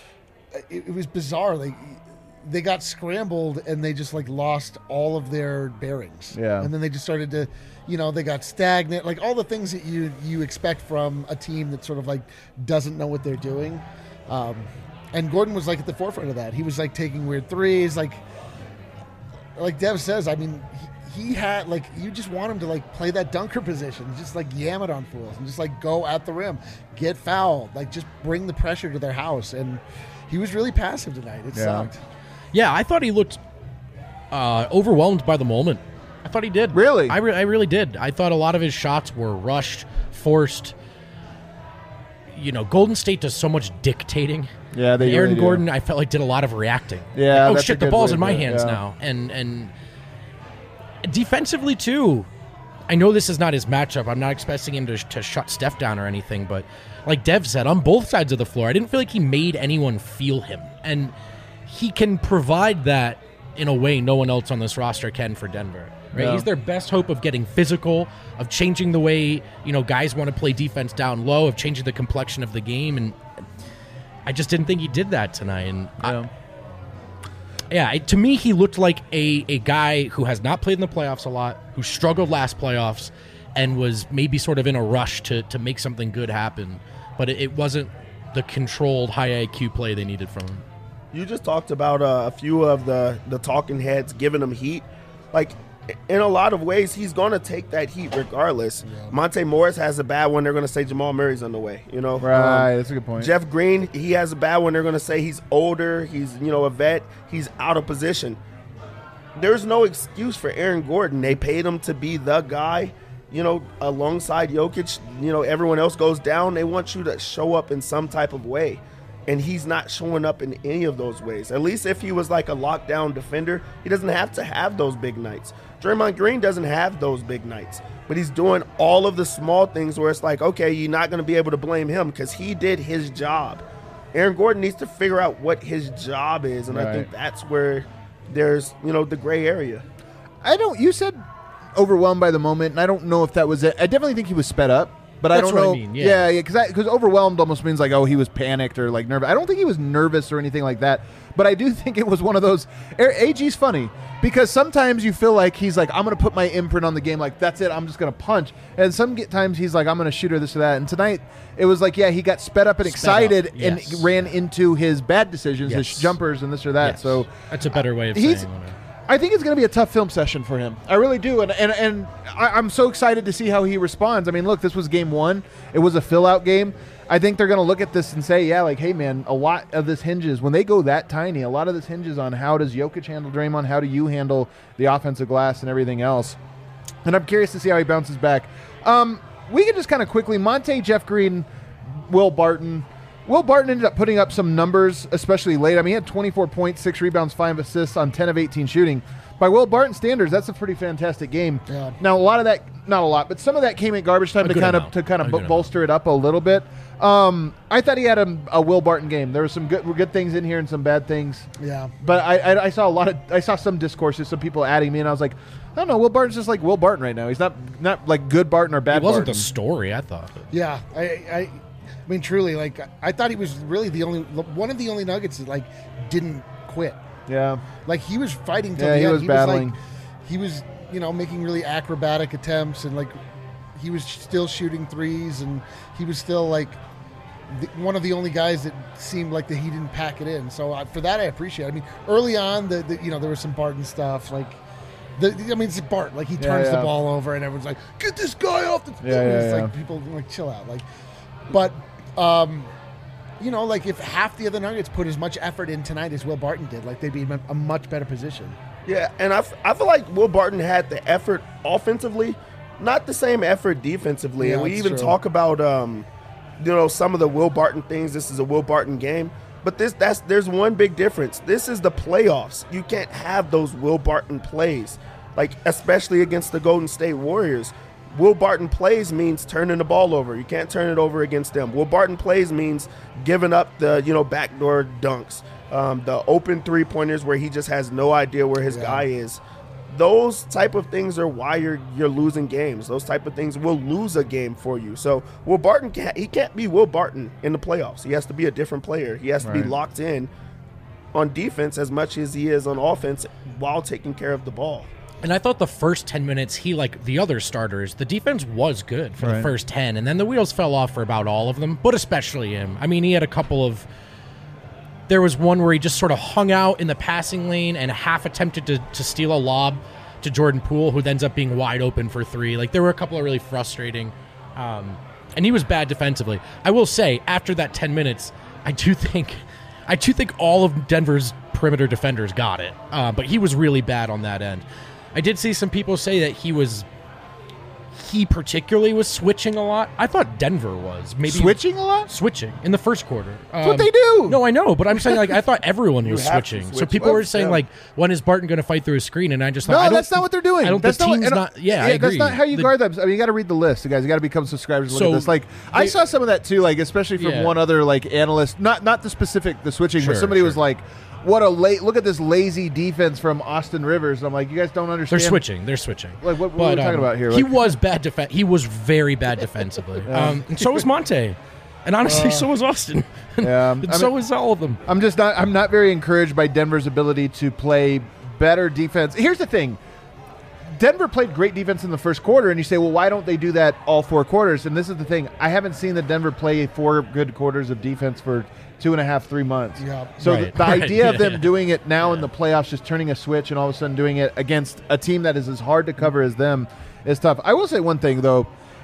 [SPEAKER 2] it was bizarre. Like, they got scrambled and they just like lost all of their bearings.
[SPEAKER 1] Yeah.
[SPEAKER 2] And then they just started to, they got stagnant, like all the things that you expect from a team that sort of like doesn't know what they're doing. And Gordon was like at the forefront of that. He was like taking weird threes. Like Dev says, I mean, he had like, you just want him to like play that dunker position, just like yam it on fools and just like go at the rim, get fouled, like just bring the pressure to their house. And he was really passive tonight. It sucked.
[SPEAKER 3] Yeah, I thought he looked overwhelmed by the moment. I thought he did.
[SPEAKER 1] Really?
[SPEAKER 3] I really did. I thought a lot of his shots were rushed, forced. Golden State does so much dictating.
[SPEAKER 1] Yeah, they
[SPEAKER 3] Aaron
[SPEAKER 1] really
[SPEAKER 3] Gordon, I felt like, did a lot of reacting.
[SPEAKER 1] Yeah,
[SPEAKER 3] like, oh
[SPEAKER 1] that's
[SPEAKER 3] shit,
[SPEAKER 1] a
[SPEAKER 3] the
[SPEAKER 1] good
[SPEAKER 3] ball's
[SPEAKER 1] way
[SPEAKER 3] in my
[SPEAKER 1] to-
[SPEAKER 3] hands
[SPEAKER 1] yeah.
[SPEAKER 3] now. And defensively too. I know this is not his matchup. I'm not expecting him to shut Steph down or anything, but like Dev said, on both sides of the floor, I didn't feel like he made anyone feel him. And he can provide that in a way no one else on this roster can for Denver. Right?
[SPEAKER 1] Yeah.
[SPEAKER 3] He's their best hope of getting physical, of changing the way, guys want to play defense down low, of changing the complexion of the game. And I just didn't think he did that tonight. And to me, he looked like a guy who has not played in the playoffs a lot, who struggled last playoffs, and was maybe sort of in a rush to make something good happen. But it wasn't the controlled, high IQ play they needed from him.
[SPEAKER 4] You just talked about a few of the talking heads giving him heat. Like, in a lot of ways, he's going to take that heat regardless. Yeah. Monte Morris has a bad one. They're going to say Jamal Murray's on the way.
[SPEAKER 1] Right, that's a good point.
[SPEAKER 4] Jeff Green, he has a bad one. They're going to say he's older. He's, a vet. He's out of position. There's no excuse for Aaron Gordon. They paid him to be the guy. Alongside Jokic, everyone else goes down. They want you to show up in some type of way. And he's not showing up in any of those ways. At least if he was like a lockdown defender, he doesn't have to have those big nights. Draymond Green doesn't have those big nights. But he's doing all of the small things where it's like, okay, you're not going to be able to blame him because he did his job. Aaron Gordon needs to figure out what his job is. And I think that's where there's, the gray area.
[SPEAKER 1] You said overwhelmed by the moment, and I don't know if that was it. I definitely think he was sped up. But I don't know.
[SPEAKER 3] What I mean, yeah,
[SPEAKER 1] because overwhelmed almost means like, oh, he was panicked or like nervous. I don't think he was nervous or anything like that. But I do think it was one of those. AG's funny because sometimes you feel like he's like, I'm going to put my imprint on the game. Like, that's it. I'm just going to punch. And times he's like, I'm going to shoot her this or that. And tonight it was like, yeah, he got sped up and excited and ran into his bad decisions, his jumpers and this or that.
[SPEAKER 3] Yes.
[SPEAKER 1] So
[SPEAKER 3] that's a better way of saying it.
[SPEAKER 1] I think it's going to be a tough film session for him. I really do, and I'm so excited to see how he responds. I mean, look, this was game 1. It was a fill-out game. I think they're going to look at this and say, yeah, like, hey, man, a lot of this hinges, when they go that tiny, a lot of this hinges on how does Jokic handle Draymond, how do you handle the offensive glass and everything else. And I'm curious to see how he bounces back. We can just kind of quickly, Monte, Jeff Green, Will Barton. Will Barton ended up putting up some numbers, especially late. I mean, he had 24 points, 6 rebounds, 5 assists on 10 of 18 shooting. By Will Barton standards, that's a pretty fantastic game.
[SPEAKER 2] Yeah.
[SPEAKER 1] Now, a lot of that, not a lot, but some of that came at garbage time to kind of bolster it up a little bit. I thought he had a Will Barton game. There were some good things in here and some bad things.
[SPEAKER 2] Yeah.
[SPEAKER 1] But I saw some discourses, some people adding me, and I was like, I don't know, Will Barton's just like Will Barton right now. He's not like good Barton or bad Barton.
[SPEAKER 3] It wasn't the story, I thought.
[SPEAKER 2] Yeah, I mean, truly, like, I thought he was really one of the only Nuggets that, like, didn't quit.
[SPEAKER 1] Yeah.
[SPEAKER 2] Like, he was fighting till
[SPEAKER 1] the
[SPEAKER 2] the end.
[SPEAKER 1] Was battling.
[SPEAKER 2] He was, making really acrobatic attempts, and, like, he was still shooting threes, and he was still, like, one of the only guys that seemed like that he didn't pack it in. So for that, I appreciate it. I mean, early on, there was some Barton stuff, like, it's Bart. Like, he turns the ball over, and everyone's like, "Get this guy off the." It's like people like chill out. Like, but like, if half the other Nuggets put as much effort in tonight as Will Barton did, like, they'd be in a much better position.
[SPEAKER 4] Yeah, and I feel like Will Barton had the effort offensively, not the same effort defensively.
[SPEAKER 2] Yeah,
[SPEAKER 4] and we even
[SPEAKER 2] true.
[SPEAKER 4] talk about some of the Will Barton things. This is a Will Barton game. But there's one big difference. This is the playoffs. You can't have those Will Barton plays, like, especially against the Golden State Warriors. Will Barton plays means turning the ball over. You can't turn it over against them. Will Barton plays means giving up the backdoor dunks, the open three-pointers where he just has no idea where his guy is. Those type of things are why you're losing games. Those type of things will lose a game for you. So Will Barton can't be Will Barton in the playoffs. He has to be a different player. He has to be locked in on defense as much as he is on offense while taking care of the ball.
[SPEAKER 3] And I thought the first 10 minutes, he, like the other starters, the defense was good for the first 10, and then the wheels fell off for about all of them, but especially him. I mean, he had a couple of... There was one where he just sort of hung out in the passing lane and half attempted to steal a lob to Jordan Poole, who ends up being wide open for 3. Like, there were a couple of really frustrating... and he was bad defensively. I will say, after that 10 minutes, I do think all of Denver's perimeter defenders got it, but he was really bad on that end. I did see some people say that he particularly was switching a lot. I thought Denver was maybe
[SPEAKER 1] switching a lot.
[SPEAKER 3] Switching in the first quarter.
[SPEAKER 1] That's what they do.
[SPEAKER 3] No, I know, but I'm saying, like, I thought everyone was switching.
[SPEAKER 4] switch.
[SPEAKER 3] So people were saying, like, when is Barton going to fight through a screen? And I just thought,
[SPEAKER 1] no, that's not what they're doing.
[SPEAKER 3] The team's not. Yeah, I agree.
[SPEAKER 1] That's not how you guard them. I mean, you got to read the list, guys. You got to become subscribers. And look at this. Like, I saw some of that too. Like, especially from one other analyst. Not the switching, but somebody was like, what a look at this lazy defense from Austin Rivers. I'm like, you guys don't understand.
[SPEAKER 3] They're switching.
[SPEAKER 1] Like, what are we talking about here?
[SPEAKER 3] He was bad He was very bad defensively. And so was Monte. And honestly, so was Austin. And so was all of them.
[SPEAKER 1] I'm not very encouraged by Denver's ability to play better defense. Here's the thing. Denver played great defense in the first quarter, and you say, well, why don't they do that all 4 quarters? And this is the thing. I haven't seen the Denver play 4 good quarters of defense for 2.5, 3 months.
[SPEAKER 2] Yeah.
[SPEAKER 1] So the idea of them doing it now in the playoffs, just turning a switch and all of a sudden doing it against a team that is as hard to cover as them is tough. I will say one thing, though,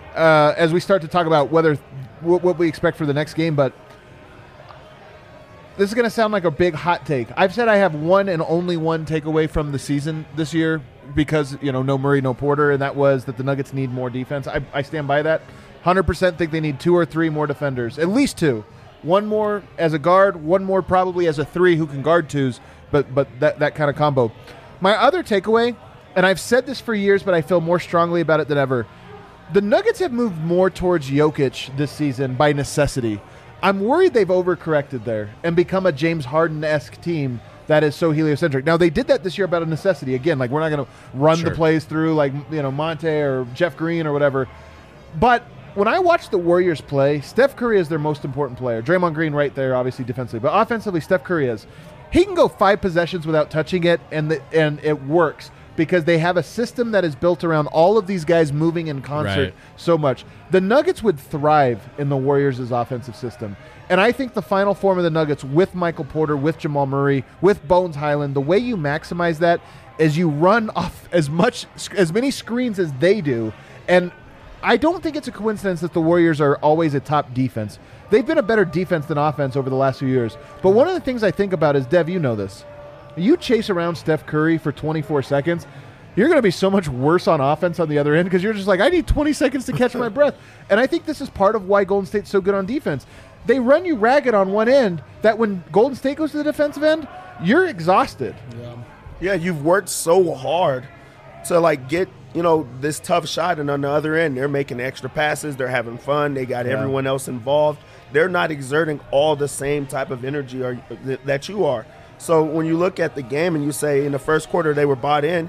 [SPEAKER 1] as we start to talk about what we expect for the next game, but this is going to sound like a big hot take. I've said I have one and only one takeaway from the season this year because, no Murray, no Porter, and that was that the Nuggets need more defense. I stand by that. 100% think they need 2 or 3 more defenders, at least 2. One more as a guard, one more probably as a 3 who can guard 2s, but that kind of combo. My other takeaway, and I've said this for years, but I feel more strongly about it than ever, the Nuggets have moved more towards Jokic this season by necessity. I'm worried they've overcorrected there and become a James Harden-esque team that is so heliocentric. Now, they did that this year about a necessity. Again, like, we're not going to run the plays through like, Monte or Jeff Green or whatever. But when I watch the Warriors play, Steph Curry is their most important player. Draymond Green right there, obviously defensively. But offensively, Steph Curry is. He can go 5 possessions without touching it, and it works because they have a system that is built around all of these guys moving in concert so much. The Nuggets would thrive in the Warriors' offensive system. And I think the final form of the Nuggets with Michael Porter, with Jamal Murray, with Bones Highland, the way you maximize that is you run off as many screens as they do, and I don't think it's a coincidence that the Warriors are always a top defense. They've been a better defense than offense over the last few years. But one of the things I think about is, Dev, you know this. You chase around Steph Curry for 24 seconds, you're going to be so much worse on offense on the other end because you're just like, I need 20 seconds to catch my breath. And I think this is part of why Golden State's so good on defense. They run you ragged on one end that when Golden State goes to the defensive end, you're exhausted.
[SPEAKER 4] Yeah, you've worked so hard to like get, this tough shot, and on the other end, they're making extra passes, they're having fun, they got everyone else involved. They're not exerting all the same type of energy that you are. So when you look at the game and you say in the first quarter they were bought in,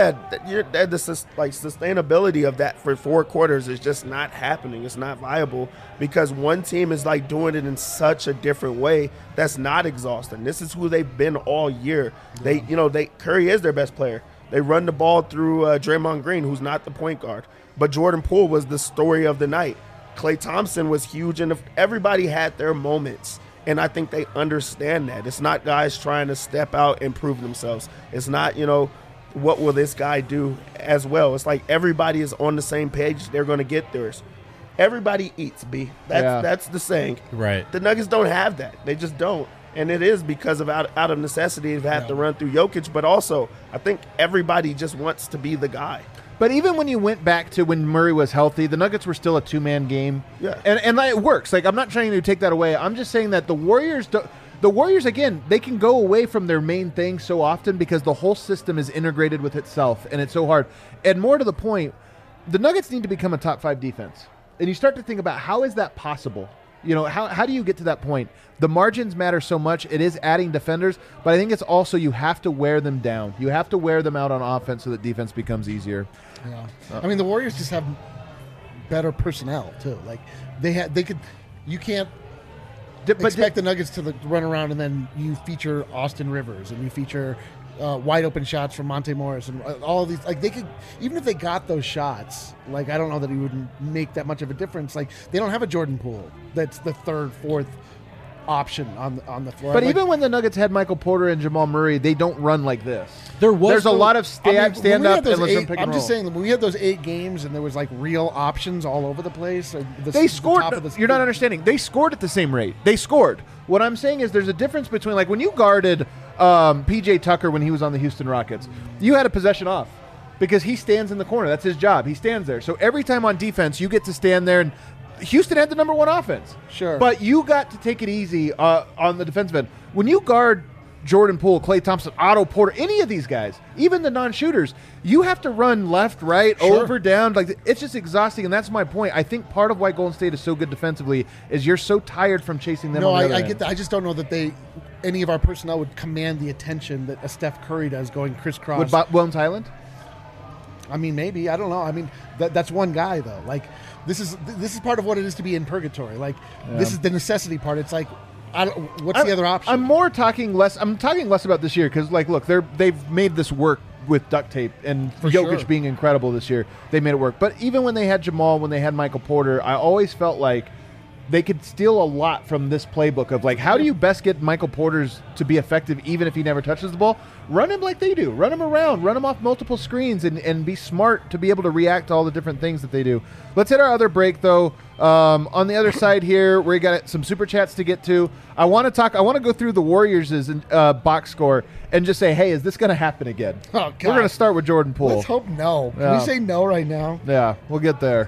[SPEAKER 4] the sustainability of that for 4 quarters is just not happening. It's not viable because one team is like doing it in such a different way that's not exhausting. This is who they've been all year. Curry is their best player. They run the ball through Draymond Green, who's not the point guard. But Jordan Poole was the story of the night. Klay Thompson was huge, and everybody had their moments. And I think they understand that. It's not guys trying to step out and prove themselves. It's not, what will this guy do as well. It's like everybody is on the same page. They're going to get theirs. Everybody eats, B. That's the saying.
[SPEAKER 3] Right.
[SPEAKER 4] The Nuggets don't have that. They just don't. And it is because of out of necessity they've had to run through Jokic, but also I think everybody just wants to be the guy.
[SPEAKER 1] But even when you went back to when Murray was healthy, the Nuggets were still a 2-man game.
[SPEAKER 4] Yeah.
[SPEAKER 1] And it works. Like, I'm not trying to take that away. I'm just saying that the Warriors, again, they can go away from their main thing so often because the whole system is integrated with itself, and it's so hard. And more to the point, the Nuggets need to become a top 5 defense. And you start to think about how is that possible? How do you get to that point? The margins matter so much. It is adding defenders, but I think it's also you have to wear them down. You have to wear them out on offense so that defense becomes easier.
[SPEAKER 2] Yeah. I mean, the Warriors just have better personnel too. Like you can't expect the Nuggets to run around and then you feature Austin Rivers and you feature wide open shots from Monte Morris and all of these. Like they could, even if they got those shots, like I don't know that it would make that much of a difference. Like they don't have a Jordan Poole that's the 3rd, 4th option on the floor.
[SPEAKER 1] But even when the Nuggets had Michael Porter and Jamal Murray, they don't run like this. There's a lot of stand up and listen pick and roll.
[SPEAKER 2] I'm just saying that when we had those 8 games and there was like real options all over the place.
[SPEAKER 1] They scored. You're not understanding. They scored at the same rate. They scored. What I'm saying is there's a difference between like when you guarded PJ Tucker when he was on the Houston Rockets, you had a possession off because he stands in the corner. That's his job. He stands there. So every time on defense, you get to stand there and Houston had the number 1 offense.
[SPEAKER 2] Sure.
[SPEAKER 1] But you got to take it easy on the defensive end. When you guard Jordan Poole, Klay Thompson, Otto Porter, any of these guys, even the non-shooters, you have to run left, right, over, down. Like it's just exhausting, and that's my point. I think part of why Golden State is so good defensively is you're so tired from chasing them.
[SPEAKER 2] I get that. I just don't know that any of our personnel would command the attention that a Steph Curry does going crisscross.
[SPEAKER 1] Would Williams Highland?
[SPEAKER 2] I mean, maybe. I don't know. I mean, that's one guy though. Like this is part of what it is to be in purgatory. Like this is the necessity part. It's like, what's the other option?
[SPEAKER 1] I'm talking less about this year because, like, look, they've made this work with duct tape, and for Jokic being incredible this year, they made it work. But even when they had Jamal, when they had Michael Porter, I always felt like they could steal a lot from this playbook of, like, how do you best get Michael Porter's to be effective even if he never touches the ball? Run him like they do. Run him around. Run him off multiple screens and be smart to be able to react to all the different things that they do. Let's hit our other break, though. On the other side here, we got some super chats to get to. I want to go through the Warriors' box score and just say, hey, is this going to happen again?
[SPEAKER 2] Oh, God.
[SPEAKER 1] We're going to start with Jordan Poole.
[SPEAKER 2] Let's hope no. Can we say no right now?
[SPEAKER 1] Yeah, we'll get there.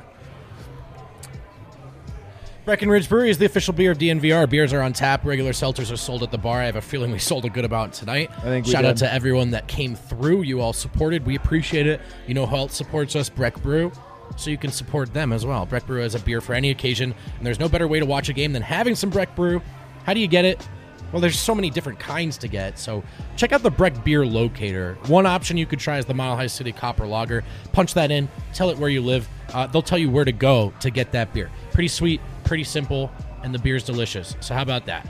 [SPEAKER 3] Breckenridge Brewery is the official beer of DNVR. Beers are on tap. Regular seltzers are sold at the bar. I have a feeling we sold a good amount tonight.
[SPEAKER 1] I think we
[SPEAKER 3] Shout
[SPEAKER 1] did.
[SPEAKER 3] out to everyone that came through. You all supported. We appreciate it. You know who else supports us? Breck Brew. So you can support them as well. Breck Brew is a beer for any occasion, and there's no better way to watch a game than having some Breck Brew. How do you get it? Well, there's so many different kinds to get, so check out the Breck Beer Locator. One option you could try is the Mile High City Copper Lager. Punch that in, tell it where you live. They'll tell you where to go to get that beer. Pretty sweet, pretty simple, and the beer's delicious. So how about that?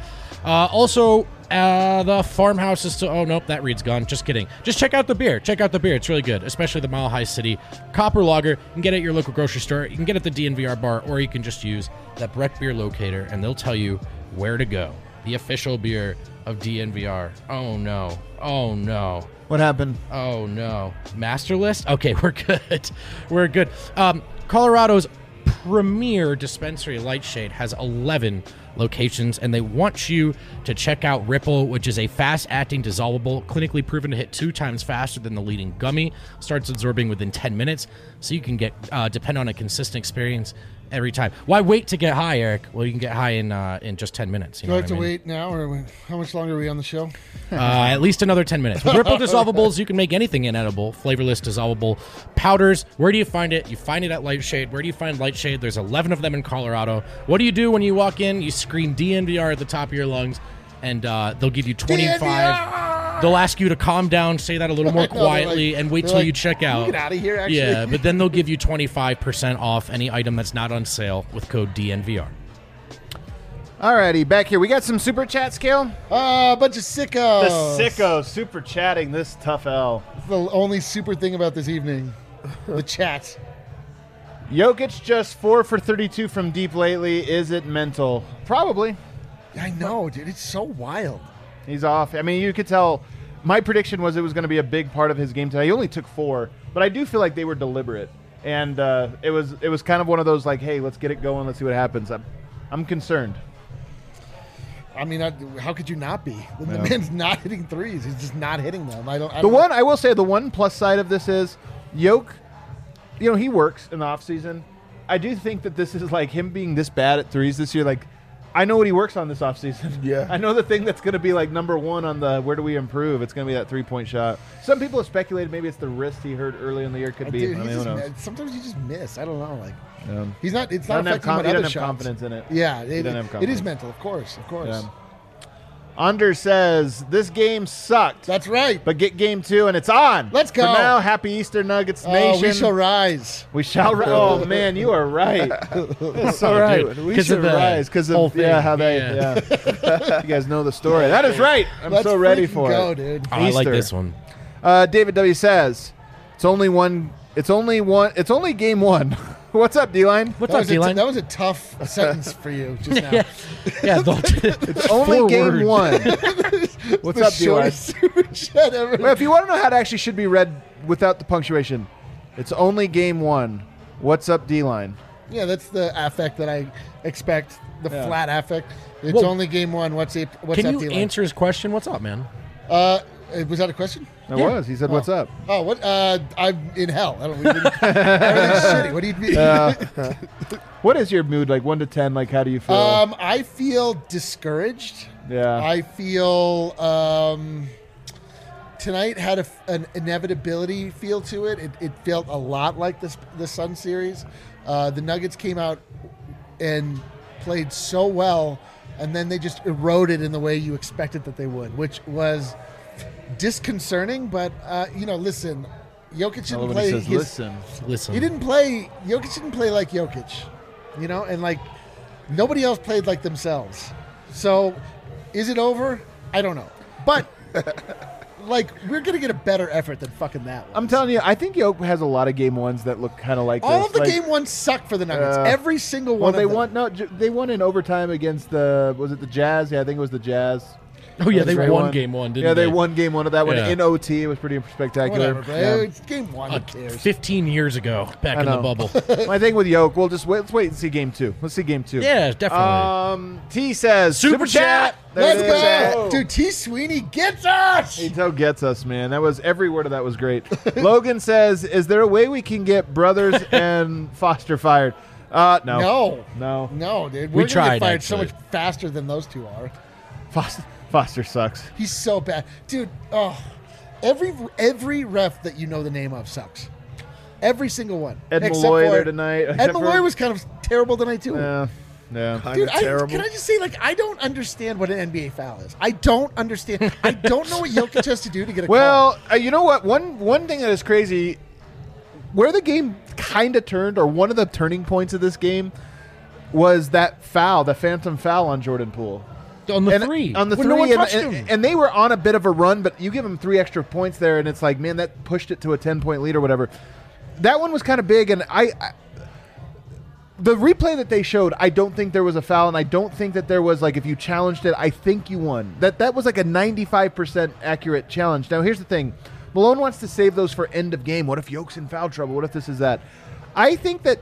[SPEAKER 3] The farmhouse is still... Oh, nope, that read's gone. Just kidding. Just check out the beer. Check out the beer. It's really good, especially the Mile High City Copper Lager. You can get it at your local grocery store. You can get it at the DNVR bar, or you can just use that Breck Beer Locator, and they'll tell you where to go. The official beer of DNVR. Oh no. Oh no.
[SPEAKER 1] What happened?
[SPEAKER 3] Oh no. Master list? Okay, we're good. We're good. Colorado's premier dispensary, Lightshade, has 11 locations, and they want you to check out Ripple, which is a fast-acting dissolvable, clinically proven to hit 2 times faster than the leading gummy. Starts absorbing within 10 minutes, so you can depend on a consistent experience every time. Why wait to get high, Eric? Well, you can get high in just 10 minutes.
[SPEAKER 2] Do I have to wait now, or how much longer are we on the show?
[SPEAKER 3] At least another 10 minutes. With Ripple dissolvables, you can make anything inedible. Flavorless dissolvable powders. Where do you find it? You find it at Lightshade. Where do you find Lightshade? There's 11 of them in Colorado. What do you do when you walk in? You scream DNVR at the top of your lungs, and they'll give you 25.
[SPEAKER 2] DNVR!
[SPEAKER 3] They'll ask you to calm down, say that a little more quietly, and wait till you check out.
[SPEAKER 2] Get out of here, actually.
[SPEAKER 3] Yeah, but then they'll give you 25% off any item that's not on sale with code DNVR.
[SPEAKER 1] Alrighty, back here. We got some super chat, Scale.
[SPEAKER 2] A bunch of sickos.
[SPEAKER 1] The sickos super chatting this tough L.
[SPEAKER 2] It's the only super thing about this evening. The chat.
[SPEAKER 1] Jokic just 4 for 32 from deep lately. Is it mental? Probably.
[SPEAKER 2] I know, dude. It's so wild.
[SPEAKER 1] He's off. I mean, you could tell. My prediction was it was going to be a big part of his game today. He only took 4, but I do feel like they were deliberate, and it was kind of one of those like, hey, let's get it going, let's see what happens. I'm concerned.
[SPEAKER 2] I mean, how could you not be? The man's not hitting threes. He's just not hitting them. I will say the one plus side of this is Yoke. You know, he works in the off season. I do think that this is like him being this bad at threes this year. Like, I know what he works on this offseason.
[SPEAKER 4] Yeah.
[SPEAKER 1] I know the thing that's going to be like number one on the where do we improve. It's going to be that 3-point shot. Some people have speculated maybe it's the wrist he hurt early in the year. Could be.
[SPEAKER 2] Dude,
[SPEAKER 1] I mean, who knows?
[SPEAKER 2] Sometimes you just miss. I don't know. Like
[SPEAKER 1] Yeah.
[SPEAKER 2] he's not. It's
[SPEAKER 1] He
[SPEAKER 2] not
[SPEAKER 1] doesn't have
[SPEAKER 2] affecting him on
[SPEAKER 1] he
[SPEAKER 2] other
[SPEAKER 1] doesn't have
[SPEAKER 2] shots.
[SPEAKER 1] confidence in it.
[SPEAKER 2] Yeah,
[SPEAKER 1] He doesn't have
[SPEAKER 2] it
[SPEAKER 1] confidence.
[SPEAKER 2] is mental, of course.
[SPEAKER 1] Yeah. Under says this game sucked.
[SPEAKER 2] That's right.
[SPEAKER 1] But get game 2 and it's on.
[SPEAKER 2] Let's go.
[SPEAKER 1] For now, happy Easter Nuggets Nation.
[SPEAKER 2] We shall rise.
[SPEAKER 1] We shall rise. Oh man, you are right. That's so right.
[SPEAKER 3] Dude,
[SPEAKER 1] We
[SPEAKER 3] 'cause
[SPEAKER 1] should
[SPEAKER 3] of the
[SPEAKER 1] rise because
[SPEAKER 3] whole
[SPEAKER 1] of
[SPEAKER 3] thing.
[SPEAKER 1] how they.
[SPEAKER 3] Yeah.
[SPEAKER 1] Yeah. You guys know the story. That is right. I'm
[SPEAKER 2] Let's
[SPEAKER 1] so ready
[SPEAKER 2] freaking
[SPEAKER 1] for
[SPEAKER 2] go,
[SPEAKER 1] it.
[SPEAKER 2] dude.
[SPEAKER 3] Oh, I like
[SPEAKER 1] Easter.
[SPEAKER 3] this one.
[SPEAKER 1] David W says it's only game 1. What's up, D-Line?
[SPEAKER 3] What's up, D-Line?
[SPEAKER 2] That was a tough sentence for you just now.
[SPEAKER 3] Yeah,
[SPEAKER 1] It's only
[SPEAKER 3] 4
[SPEAKER 1] game
[SPEAKER 3] words.
[SPEAKER 1] 1. What's
[SPEAKER 2] The
[SPEAKER 1] up, D-Line?
[SPEAKER 2] shortest super chat ever.
[SPEAKER 1] Well, if you want to know how it actually should be read without the punctuation, it's only game 1. What's up, D-Line?
[SPEAKER 2] Yeah, that's the affect that I expect. The
[SPEAKER 1] Yeah.
[SPEAKER 2] flat affect. It's
[SPEAKER 3] Well,
[SPEAKER 2] only game 1. What's
[SPEAKER 3] Can
[SPEAKER 2] up,
[SPEAKER 3] you
[SPEAKER 2] D-Line?
[SPEAKER 3] answer his question? What's up, man?
[SPEAKER 2] Was that a question?
[SPEAKER 1] It
[SPEAKER 3] Yeah.
[SPEAKER 1] was. He said, "What's up?"
[SPEAKER 2] Oh, what? I'm in hell. I don't. Everything's shitty. What do you mean?
[SPEAKER 1] What is your mood like 1 to 10? Like, how do you feel?
[SPEAKER 2] I feel discouraged.
[SPEAKER 1] Yeah.
[SPEAKER 2] I feel tonight had an inevitability feel to it. It felt a lot like the Sun series. The Nuggets came out and played so well, and then they just eroded in the way you expected that they would, which was disconcerting. But listen, Jokic
[SPEAKER 1] I love
[SPEAKER 2] didn't
[SPEAKER 1] when
[SPEAKER 2] play
[SPEAKER 1] he says,
[SPEAKER 2] his.
[SPEAKER 3] Listen.
[SPEAKER 2] He didn't play. Jokic didn't play like Jokic, and like nobody else played like themselves. So, is it over? I don't know, but like we're gonna get a better effort than fucking that one.
[SPEAKER 1] I'm telling you, I think Yoke has a lot of game 1s that look kind of like
[SPEAKER 2] All
[SPEAKER 1] this.
[SPEAKER 2] of the
[SPEAKER 1] Like,
[SPEAKER 2] game 1 sucked for the Nuggets.
[SPEAKER 1] Yeah.
[SPEAKER 2] Every single
[SPEAKER 1] Well,
[SPEAKER 2] one.
[SPEAKER 1] they
[SPEAKER 2] of them.
[SPEAKER 1] won. No, they won in overtime against was it the Jazz? Yeah, I think it was the Jazz.
[SPEAKER 3] Oh, yeah, they
[SPEAKER 1] That's right.
[SPEAKER 3] won game 1, didn't
[SPEAKER 1] Yeah,
[SPEAKER 3] they?
[SPEAKER 1] they won game 1 of that one
[SPEAKER 3] Yeah.
[SPEAKER 1] in OT. It was pretty spectacular.
[SPEAKER 2] Whatever, bro.
[SPEAKER 1] Yeah.
[SPEAKER 2] It's game 1. Who cares?
[SPEAKER 3] 15 years ago, back
[SPEAKER 1] I
[SPEAKER 3] in the
[SPEAKER 1] know.
[SPEAKER 3] bubble.
[SPEAKER 1] My thing with Yoke, let's wait and see game 2. Let's see game 2.
[SPEAKER 3] Yeah, definitely.
[SPEAKER 1] T says
[SPEAKER 3] Super chat.
[SPEAKER 1] There
[SPEAKER 2] Let's
[SPEAKER 1] it is.
[SPEAKER 2] go, dude. T. Sweeney gets us.
[SPEAKER 1] He so gets us, man. That was every word of that was great. Logan says, "Is there a way we can get Brothers and Foster fired?" No.
[SPEAKER 2] No, dude.
[SPEAKER 3] We
[SPEAKER 2] We're gonna
[SPEAKER 3] tried,
[SPEAKER 2] get fired so
[SPEAKER 3] actually.
[SPEAKER 2] much faster than those two are.
[SPEAKER 1] Foster sucks.
[SPEAKER 2] He's so bad, dude. Oh, every ref that you know the name of sucks. Every single one.
[SPEAKER 1] Ed
[SPEAKER 2] Except
[SPEAKER 1] Malloy
[SPEAKER 2] for-
[SPEAKER 1] there tonight.
[SPEAKER 2] Ed
[SPEAKER 1] except for-
[SPEAKER 2] Malloy was kind of terrible tonight too.
[SPEAKER 1] Yeah.
[SPEAKER 4] Kind
[SPEAKER 2] Dude,
[SPEAKER 4] of terrible.
[SPEAKER 2] can I just say, like, I don't understand what an NBA foul is. I don't understand. I don't know what Jokic has to do to get a call.
[SPEAKER 1] Well, you know what? One thing that is crazy, where the game kind of turned, or one of the turning points of this game, was that foul, the phantom foul on Jordan Poole.
[SPEAKER 3] On the 3.
[SPEAKER 1] On the
[SPEAKER 3] when
[SPEAKER 1] 3,
[SPEAKER 3] no one
[SPEAKER 1] and,
[SPEAKER 3] touched
[SPEAKER 1] and,
[SPEAKER 3] him.
[SPEAKER 1] and they were on a bit of a run, but you give them 3 extra points there, and it's like, man, that pushed it to a 10-point lead or whatever. That one was kind of big, and the replay that they showed, I don't think there was a foul, and I don't think that there was, like, if you challenged it, I think you won. That was like a 95% accurate challenge. Now, here's the thing. Malone wants to save those for end of game. What if Yoke's in foul trouble? What if this is that? I think that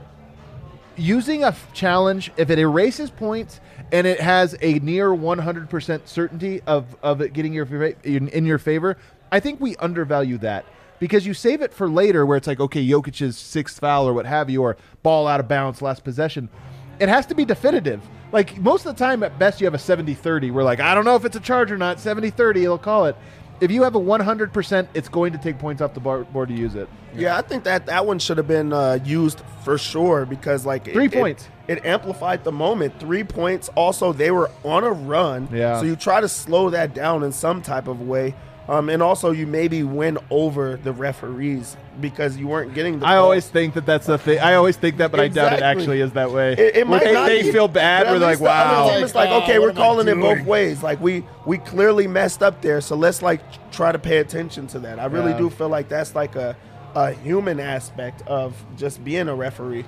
[SPEAKER 1] using a challenge, if it erases points and it has a near 100% certainty of it getting in your favor, I think we undervalue that. Because you save it for later where it's like, okay, Jokic's sixth foul or what have you, or ball out of bounds, last possession. It has to be definitive. Like, most of the time, at best, you have a 70-30. We're like, I don't know if it's a charge or not. 70-30, he'll call it. If you have a 100%, it's going to take points off the board to use it.
[SPEAKER 4] Yeah, I think that one should have been used for sure because, like,
[SPEAKER 1] 3 points.
[SPEAKER 4] It amplified the moment. 3 points. Also, they were on a run.
[SPEAKER 1] Yeah.
[SPEAKER 4] So you try to slow that down in some type of way. And also, you maybe win over the referees because you weren't getting the
[SPEAKER 1] I
[SPEAKER 4] call.
[SPEAKER 1] always think that that's the thing. I always think that, but I doubt it actually is that way.
[SPEAKER 4] It might not
[SPEAKER 1] they
[SPEAKER 4] be,
[SPEAKER 1] feel bad.
[SPEAKER 4] but
[SPEAKER 1] We're
[SPEAKER 4] at
[SPEAKER 1] like,
[SPEAKER 4] least the other
[SPEAKER 1] wow.
[SPEAKER 4] team is like, okay,
[SPEAKER 2] what
[SPEAKER 4] we're
[SPEAKER 2] am I
[SPEAKER 4] calling it both
[SPEAKER 2] doing?
[SPEAKER 4] ways. Like, we clearly messed up there, so let's, like, try to pay attention to that. I really do feel like that's, like, a human aspect of just being a referee.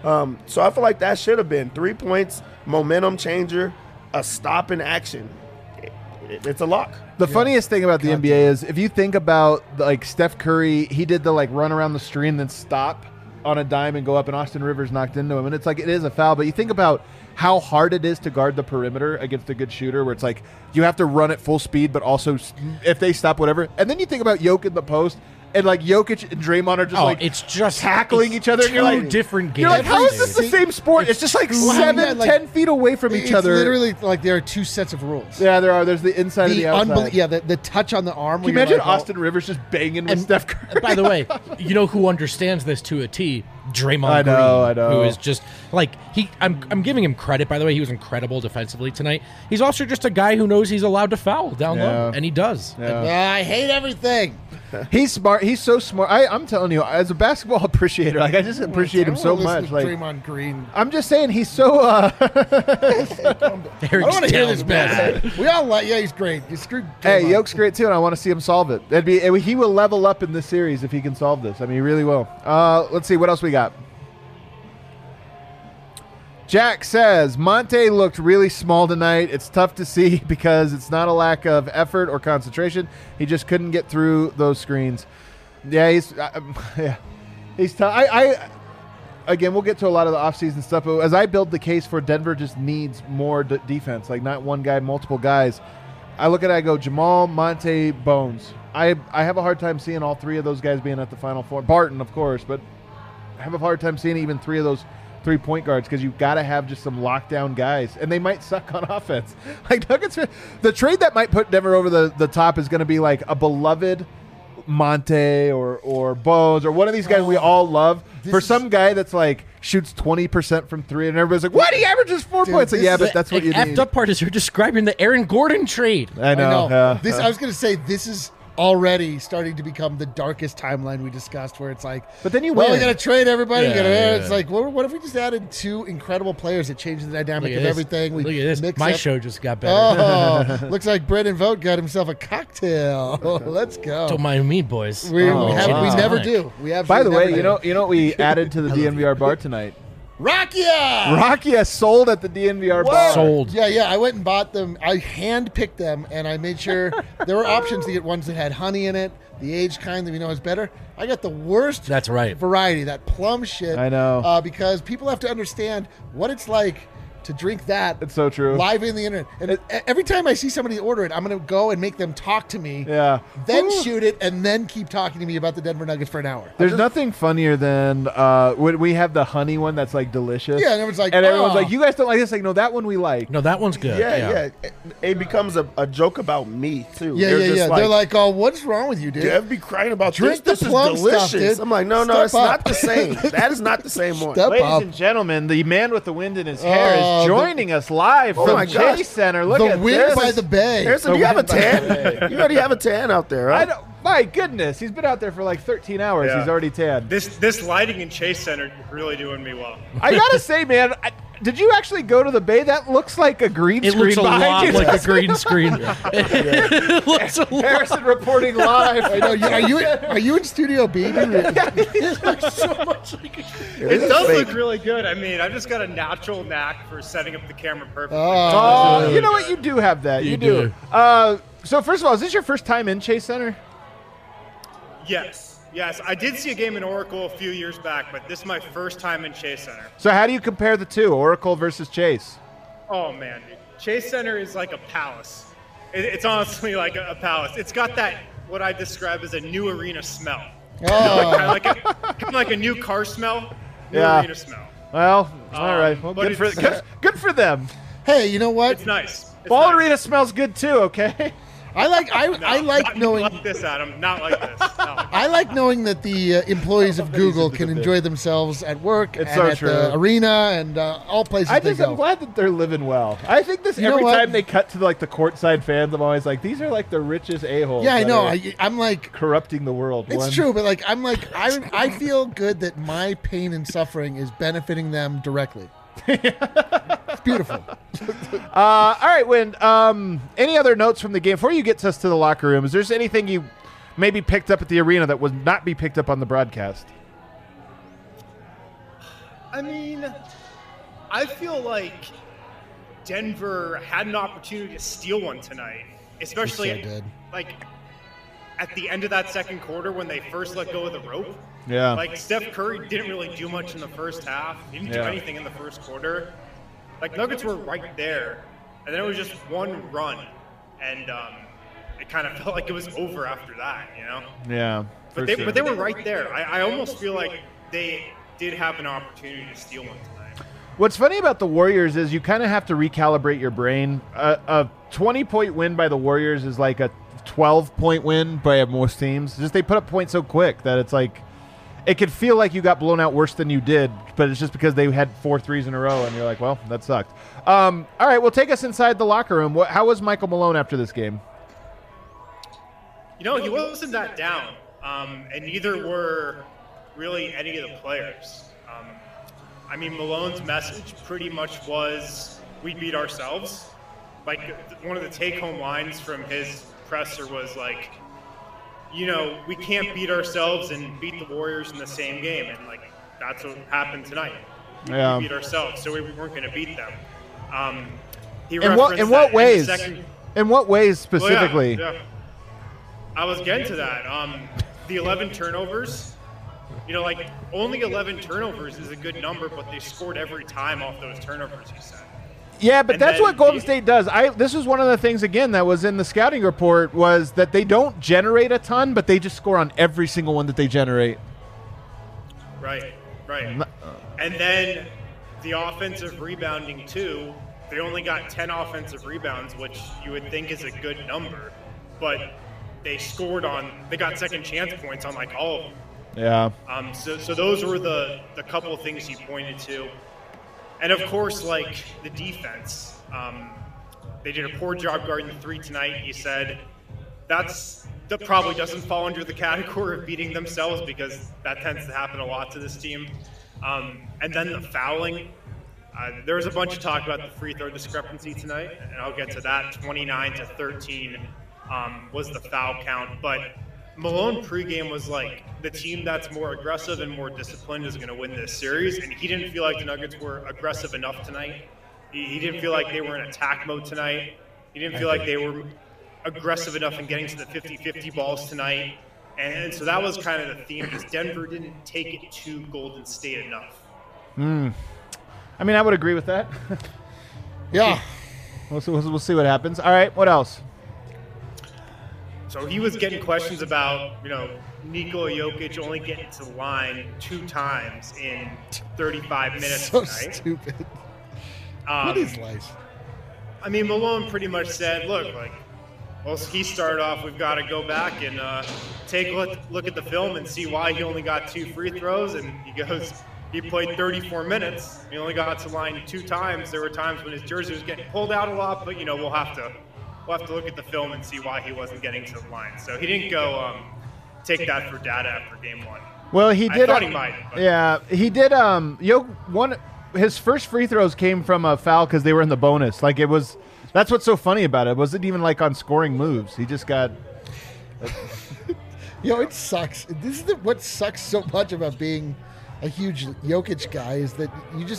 [SPEAKER 4] So I feel like that should have been 3 points, momentum changer, a stop in action. It's a lock.
[SPEAKER 1] The funniest thing about the NBA is if you think about, like, Steph Curry, he did the, like, run around the screen then stop on a dime and go up, and Austin Rivers knocked into him. And it's like, it is a foul, but you think about how hard it is to guard the perimeter against a good shooter where it's like you have to run at full speed, but also if they stop, whatever. And then you think about Jokic in the post, and, like, Jokic and Draymond are just
[SPEAKER 3] it's just
[SPEAKER 1] tackling each other. And you're like,
[SPEAKER 3] different games.
[SPEAKER 1] You're like, how is this the same sport? It's just like 10 feet away from each other.
[SPEAKER 2] It's literally like there are two sets of rules.
[SPEAKER 1] Yeah, there are. There's the inside and the outside.
[SPEAKER 2] The touch on the arm.
[SPEAKER 1] Can you imagine Austin Rivers just banging with Steph Curry?
[SPEAKER 3] And by the way, you know who understands this to a T? Draymond
[SPEAKER 1] I know.
[SPEAKER 3] Green, who is just like I'm giving him credit. By the way, he was incredible defensively tonight. He's also just a guy who knows he's allowed to foul down low, and he does.
[SPEAKER 1] Yeah.
[SPEAKER 2] I hate everything.
[SPEAKER 1] He's smart. He's so smart. I'm telling you, as a basketball appreciator, like, I just appreciate him so much. Like,
[SPEAKER 2] Draymond Green.
[SPEAKER 1] I'm just saying, he's so.
[SPEAKER 2] I don't want to hear this
[SPEAKER 3] bad.
[SPEAKER 2] bad. We all like. Yeah, he's great. He's screwed.
[SPEAKER 1] Hey, Yoke's great too, and I want to see him solve it. He will level up in this series if he can solve this. I mean, he really will. Let's see what else we got. Jack says, Monte looked really small tonight. It's tough to see because it's not a lack of effort or concentration. He just couldn't get through those screens. Yeah, he's tough. Again, we'll get to a lot of the offseason stuff, but as I build the case for Denver just needs more defense, like not one guy, multiple guys. I look at it, I go, Jamal, Monte, Bones. I have a hard time seeing all three of those guys being at the Final Four. Barton, of course, but I have a hard time seeing even three of those 3-point guards because you've got to have just some lockdown guys, and they might suck on offense. Like Nuggets, the trade that might put Denver over the top is going to be like a beloved Monte or Bones or one of these guys we all love for some guy that's like shoots 20% from three, and everybody's like, "What? He averages 4 points." Like, yeah, but that's what you need.
[SPEAKER 3] The effed up part is you're describing the Aaron Gordon trade.
[SPEAKER 1] I know.
[SPEAKER 2] I was going to say this is already starting to become the darkest timeline we discussed, where it's like,
[SPEAKER 1] but then you
[SPEAKER 2] we
[SPEAKER 1] win.
[SPEAKER 2] got to trade everybody.
[SPEAKER 3] Yeah.
[SPEAKER 2] It's like, what if we just added two incredible players that changed the dynamic of everything?
[SPEAKER 3] Look at this. My show just got better.
[SPEAKER 2] Oh, looks like Brendan Vogt got himself a cocktail. Let's go.
[SPEAKER 3] Don't mind me, boys.
[SPEAKER 2] We never do.
[SPEAKER 1] By the way, you know what we added to the DNVR bar tonight? Rakia sold at the DNVR bar.
[SPEAKER 3] Sold.
[SPEAKER 2] Yeah. I went and bought them. I hand-picked them, and I made sure there were options to get ones that had honey in it, the aged kind that we know is better. I got the worst
[SPEAKER 3] That's right.
[SPEAKER 2] variety, that plum shit.
[SPEAKER 1] I know.
[SPEAKER 2] Because people have to understand what it's like to drink that.
[SPEAKER 1] It's so true.
[SPEAKER 2] Live in the internet. And every time I see somebody order it, I'm going to go and make them talk to me.
[SPEAKER 1] Yeah.
[SPEAKER 2] Then shoot it, and then keep talking to me about the Denver Nuggets for an hour.
[SPEAKER 1] There's nothing funnier than when we have the honey one that's like delicious.
[SPEAKER 2] Yeah, and everyone's like,
[SPEAKER 1] everyone's like, you guys don't like this? Like, no, that one we like.
[SPEAKER 3] No, that one's good.
[SPEAKER 4] Yeah. It becomes a joke about me too.
[SPEAKER 2] Yeah. They're like, oh, what's wrong with you, dude?
[SPEAKER 4] Dev be crying about
[SPEAKER 2] Drink
[SPEAKER 4] this.
[SPEAKER 2] the
[SPEAKER 4] This
[SPEAKER 2] plum
[SPEAKER 4] is delicious.
[SPEAKER 2] stuff, dude.
[SPEAKER 4] I'm like, no,
[SPEAKER 2] Step
[SPEAKER 4] it's
[SPEAKER 2] up.
[SPEAKER 4] not the same. That is not the same one.
[SPEAKER 2] Step
[SPEAKER 1] Ladies
[SPEAKER 2] up.
[SPEAKER 1] and gentlemen, the man with the wind in his hair is joining us live
[SPEAKER 4] Oh
[SPEAKER 1] from
[SPEAKER 4] my gosh.
[SPEAKER 1] Chase Center. Look
[SPEAKER 2] The
[SPEAKER 1] at
[SPEAKER 2] wind
[SPEAKER 1] this.
[SPEAKER 2] by the bay.
[SPEAKER 4] Harrison, do you have a tan? You already have a tan out there,
[SPEAKER 1] I
[SPEAKER 4] right?
[SPEAKER 1] don't, my goodness, he's been out there for like 13 hours.
[SPEAKER 5] Yeah.
[SPEAKER 1] He's already tan.
[SPEAKER 5] This lighting in Chase Center really doing me well.
[SPEAKER 1] I gotta say, man, did you actually go to the bay? That looks like a green
[SPEAKER 3] It
[SPEAKER 1] screen
[SPEAKER 3] looks a
[SPEAKER 1] behind
[SPEAKER 3] lot
[SPEAKER 1] you.
[SPEAKER 3] like a green screen. It looks a lot.
[SPEAKER 1] Harrison reporting live.
[SPEAKER 2] I know. Are you in Studio B?
[SPEAKER 1] He looks so much
[SPEAKER 5] It does look really good. I mean, I've just got a natural knack for setting up the camera perfectly.
[SPEAKER 1] Oh, you know what? You do have that. You do. So first of all, is this your first time in Chase Center?
[SPEAKER 5] Yes. I did see a game in Oracle a few years back, but this is my first time in Chase Center.
[SPEAKER 1] So how do you compare the two, Oracle versus Chase?
[SPEAKER 5] Oh, man. Chase Center is like a palace. It's honestly like a palace. It's got that, what I describe as a new arena smell.
[SPEAKER 2] Oh.
[SPEAKER 5] kind of like a new car smell, new
[SPEAKER 1] Yeah.
[SPEAKER 5] arena smell.
[SPEAKER 1] Well, all right. Well,
[SPEAKER 5] but
[SPEAKER 1] good for them.
[SPEAKER 2] Hey, you know what?
[SPEAKER 5] It's nice. It's
[SPEAKER 1] Ball
[SPEAKER 5] nice.
[SPEAKER 1] Arena smells good too. Okay.
[SPEAKER 2] I like
[SPEAKER 5] Not
[SPEAKER 2] knowing
[SPEAKER 5] like this, Adam. Not like this. Not like
[SPEAKER 2] I like knowing that the employees of Google can enjoy themselves at work
[SPEAKER 1] It's
[SPEAKER 2] and
[SPEAKER 1] so
[SPEAKER 2] at
[SPEAKER 1] true.
[SPEAKER 2] the arena and all places
[SPEAKER 1] I'm
[SPEAKER 2] they go.
[SPEAKER 1] glad that they're living well. I think this
[SPEAKER 2] You know
[SPEAKER 1] every
[SPEAKER 2] what?
[SPEAKER 1] time they cut to like the courtside fans, I'm always like, these are like the richest a-holes.
[SPEAKER 2] Yeah, I
[SPEAKER 1] that
[SPEAKER 2] know.
[SPEAKER 1] are
[SPEAKER 2] I'm like,
[SPEAKER 1] corrupting the world.
[SPEAKER 2] it's true, but like, I feel good that my pain and suffering is benefiting them directly. It's beautiful.
[SPEAKER 1] All right, Win. Any other notes from the game before you get us to the locker room? Is there anything you maybe picked up at the arena that would not be picked up on the broadcast?
[SPEAKER 5] I mean, I feel like Denver had an opportunity to steal one tonight, especially
[SPEAKER 2] They so did.
[SPEAKER 5] like at the end of that second quarter when they first let go of the rope.
[SPEAKER 1] Yeah.
[SPEAKER 5] Like Steph Curry didn't really do much in the first half. He didn't do
[SPEAKER 1] Yeah.
[SPEAKER 5] anything in the first quarter. Like Nuggets were right there, and then it was just one run, and it kind of felt like it was over after that, you know.
[SPEAKER 1] Yeah.
[SPEAKER 5] But they were right there. I almost feel like they did have an opportunity to steal one tonight.
[SPEAKER 1] What's funny about the Warriors is you kind of have to recalibrate your brain. A 20-point win by the Warriors is like a 12-point win by most teams. Just they put up points so quick that it's like it could feel like you got blown out worse than you did, but it's just because they had 4 threes in a row, and you're like, well, that sucked. All right, well, take us inside the locker room. How was Michael Malone after this game?
[SPEAKER 5] You know, he wasn't that down, and neither were really any of the players. I mean, Malone's message pretty much was, we beat ourselves. Like, one of the take-home lines from his presser was like, you know, we can't beat ourselves and beat the Warriors in the same game. And, like, that's what happened tonight.
[SPEAKER 1] Yeah.
[SPEAKER 5] We beat ourselves, so we weren't going to beat them. He
[SPEAKER 1] In what
[SPEAKER 5] referenced that
[SPEAKER 1] ways?
[SPEAKER 5] the second-
[SPEAKER 1] In what ways
[SPEAKER 5] Well,
[SPEAKER 1] specifically?
[SPEAKER 5] yeah. I was getting to that. The 11 turnovers, you know, like, only 11 turnovers is a good number, but they scored every time off those turnovers, he said.
[SPEAKER 1] Yeah, but
[SPEAKER 5] And
[SPEAKER 1] that's
[SPEAKER 5] then
[SPEAKER 1] what Golden State does. This was one of the things, again, that was in the scouting report, was that they don't generate a ton, but they just score on every single one that they generate.
[SPEAKER 5] Right. And then the offensive rebounding, too. They only got 10 offensive rebounds, which you would think is a good number, but they got second chance points on, like, all of them.
[SPEAKER 1] Yeah.
[SPEAKER 5] So those were the couple of things he pointed to. And, of course, like, the defense. They did a poor job guarding the 3 tonight. He said that probably doesn't fall under the category of beating themselves because that tends to happen a lot to this team. And then the fouling. There was a bunch of talk about the free throw discrepancy tonight, and I'll get to that. 29-13 was the foul count. But Malone pregame was like, the team that's more aggressive and more disciplined is going to win this series, and he didn't feel like the Nuggets were aggressive enough tonight. He didn't feel like they were in attack mode tonight. He didn't feel like they were aggressive enough in getting to the 50-50 balls tonight. And so that was kind of the theme, is Denver didn't take it to Golden State enough.
[SPEAKER 1] I mean, I would agree with that.
[SPEAKER 2] Yeah.
[SPEAKER 1] We'll see what happens. All right, what else?
[SPEAKER 5] So he was getting questions about, you know, Nikola Jokic only getting to the line 2 times in 35 minutes
[SPEAKER 2] So
[SPEAKER 5] tonight.
[SPEAKER 2] stupid. What is life?
[SPEAKER 5] I mean, Malone pretty much said, look, like, well, he started off, we've got to go back and take a look at the film and see why he only got 2 free throws. And he goes, he played 34 minutes. He only got to the line 2 times. There were times when his jersey was getting pulled out a lot, but, you know, we'll have to look at the film and see why he wasn't getting to the line. So he didn't go take that for data after game 1.
[SPEAKER 1] Well, he did.
[SPEAKER 5] I thought he might. But.
[SPEAKER 1] Yeah, he did. His first free throws came from a foul because they were in the bonus. Like, it was. That's what's so funny about it. It wasn't even like on scoring moves. He just got.
[SPEAKER 2] It sucks. This is what sucks so much about being a huge Jokic guy is that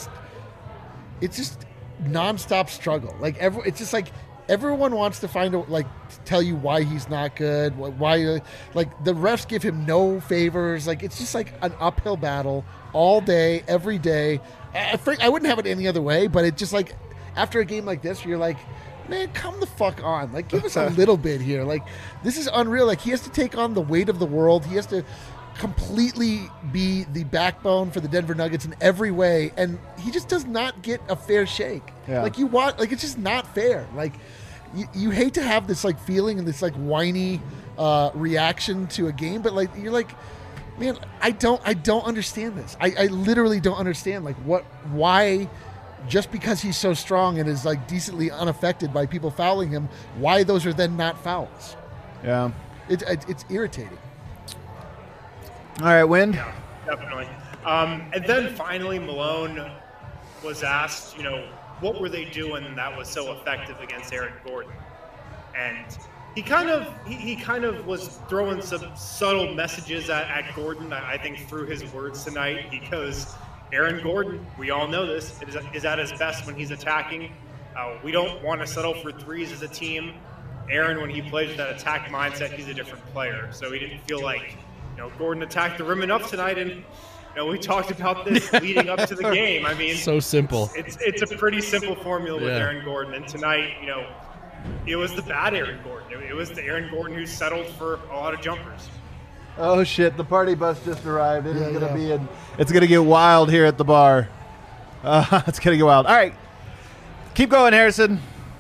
[SPEAKER 2] it's just nonstop struggle. Like it's just like everyone wants to tell you why he's not good, why like the refs give him no favors. Like it's just like an uphill battle all day, every day. I wouldn't have it any other way, but it just like after a game like this, you're like, man, come the fuck on. Like, give us a little bit here. Like, this is unreal. Like, he has to take on the weight of the world. He has to completely be the backbone for the Denver Nuggets in every way, and he just does not get a fair shake.
[SPEAKER 1] Yeah.
[SPEAKER 2] Like, it's just not fair. Like, you hate to have this, like, feeling and this, like, whiny reaction to a game, but, like, you're like, man, I don't understand this. I literally don't understand, like, why, just because he's so strong and is, like, decently unaffected by people fouling him, why those are then not fouls.
[SPEAKER 1] Yeah.
[SPEAKER 2] It's irritating.
[SPEAKER 1] All right, Wind.
[SPEAKER 5] Yeah, definitely. And then finally, Malone was asked, what were they doing that was so effective against Aaron Gordon? And he kind of was throwing some subtle messages at Gordon, I think, through his words tonight. He goes, Aaron Gordon, we all know this, is at his best when he's attacking. We don't want to settle for threes as a team. Aaron, when he plays with that attack mindset, he's a different player. So he didn't feel like, Gordon attacked the rim enough tonight, and we talked about this leading up to the game. I mean,
[SPEAKER 3] so simple.
[SPEAKER 5] It's a pretty simple formula with Aaron Gordon, and tonight, it was the bad Aaron Gordon. It was the Aaron Gordon who settled for a lot of jumpers.
[SPEAKER 1] Oh shit! The party bus just arrived. It's gonna get wild here at the bar. It's gonna get wild. All right, keep going, Harrison.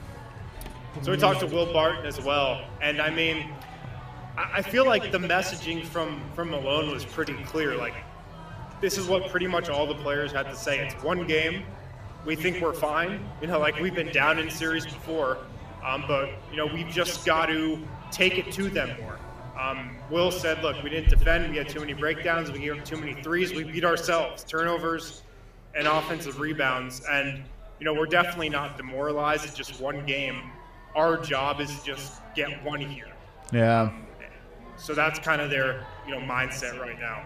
[SPEAKER 5] So we talked to Will Barton as well, and I mean, I feel like the messaging from Malone was pretty clear. Like, this is what pretty much all the players had to say. It's one game. We think we're fine. Like we've been down in series before, but we've just got to take it to them more. Will said, look, we didn't defend. We had too many breakdowns. We gave up too many threes. We beat ourselves. Turnovers and offensive rebounds. And, we're definitely not demoralized. It's just one game. Our job is to just get one here.
[SPEAKER 1] Yeah.
[SPEAKER 5] So that's kind of their, mindset right now.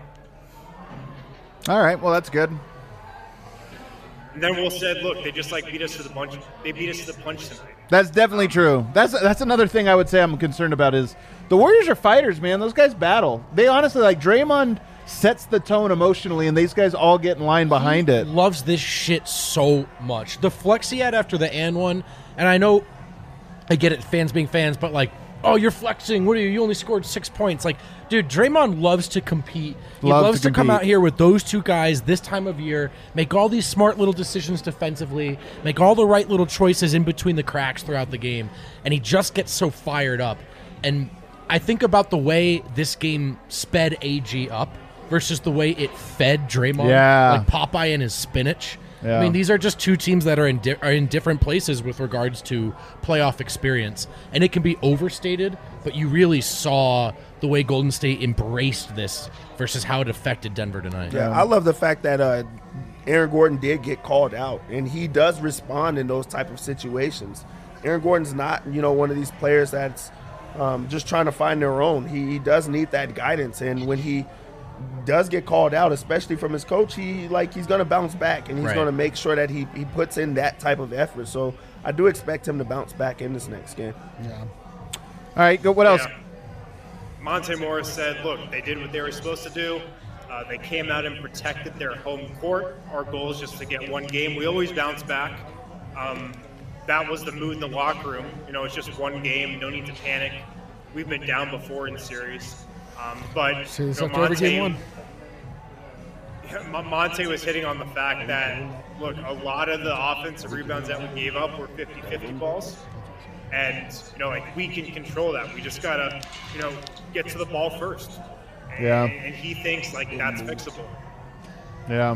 [SPEAKER 1] All right. Well, that's good.
[SPEAKER 5] And then Will said, look, they just beat us to the punch. They beat us to the punch tonight.
[SPEAKER 1] That's definitely true. That's another thing I would say I'm concerned about is the Warriors are fighters, man. Those guys battle. They honestly, like, Draymond sets the tone emotionally, and these guys all get in line behind it.
[SPEAKER 3] Loves this shit so much. The flex he had after the and one, and I know, I get it, fans being fans, but like, oh, you're flexing. What are you? You only scored 6 points. Like, dude, Draymond loves to compete. He loves to come out here with those two guys this time of year, make all these smart little decisions defensively, make all the right little choices in between the cracks throughout the game, and he just gets so fired up. And I think about the way this game sped AG up versus the way it fed Draymond, like Popeye and his spinach. Yeah. I mean, these are just two teams that are in different places with regards to playoff experience. And it can be overstated, but you really saw the way Golden State embraced this versus how it affected Denver tonight.
[SPEAKER 4] Yeah, I love the fact that Aaron Gordon did get called out, and he does respond in those type of situations. Aaron Gordon's not, one of these players that's just trying to find their own. He does need that guidance, and when he does get called out, especially from his coach, he's going to bounce back, and he's going to make sure that he puts in that type of effort. So I do expect him to bounce back in this next game.
[SPEAKER 2] Yeah.
[SPEAKER 1] All right, go. What else?
[SPEAKER 5] Monte Morris said, look, they did what they were supposed to do. They came out and protected their home court. Our goal is just to get one game. We always bounce back. That was the mood in the locker room. It's just one game. No need to panic. We've been down before in the series. But Monte was hitting on the fact that, look, a lot of the offensive rebounds that we gave up were 50-50 balls. And, we can control that. We just got to, get to the ball first. And he thinks, that's fixable.
[SPEAKER 1] Yeah.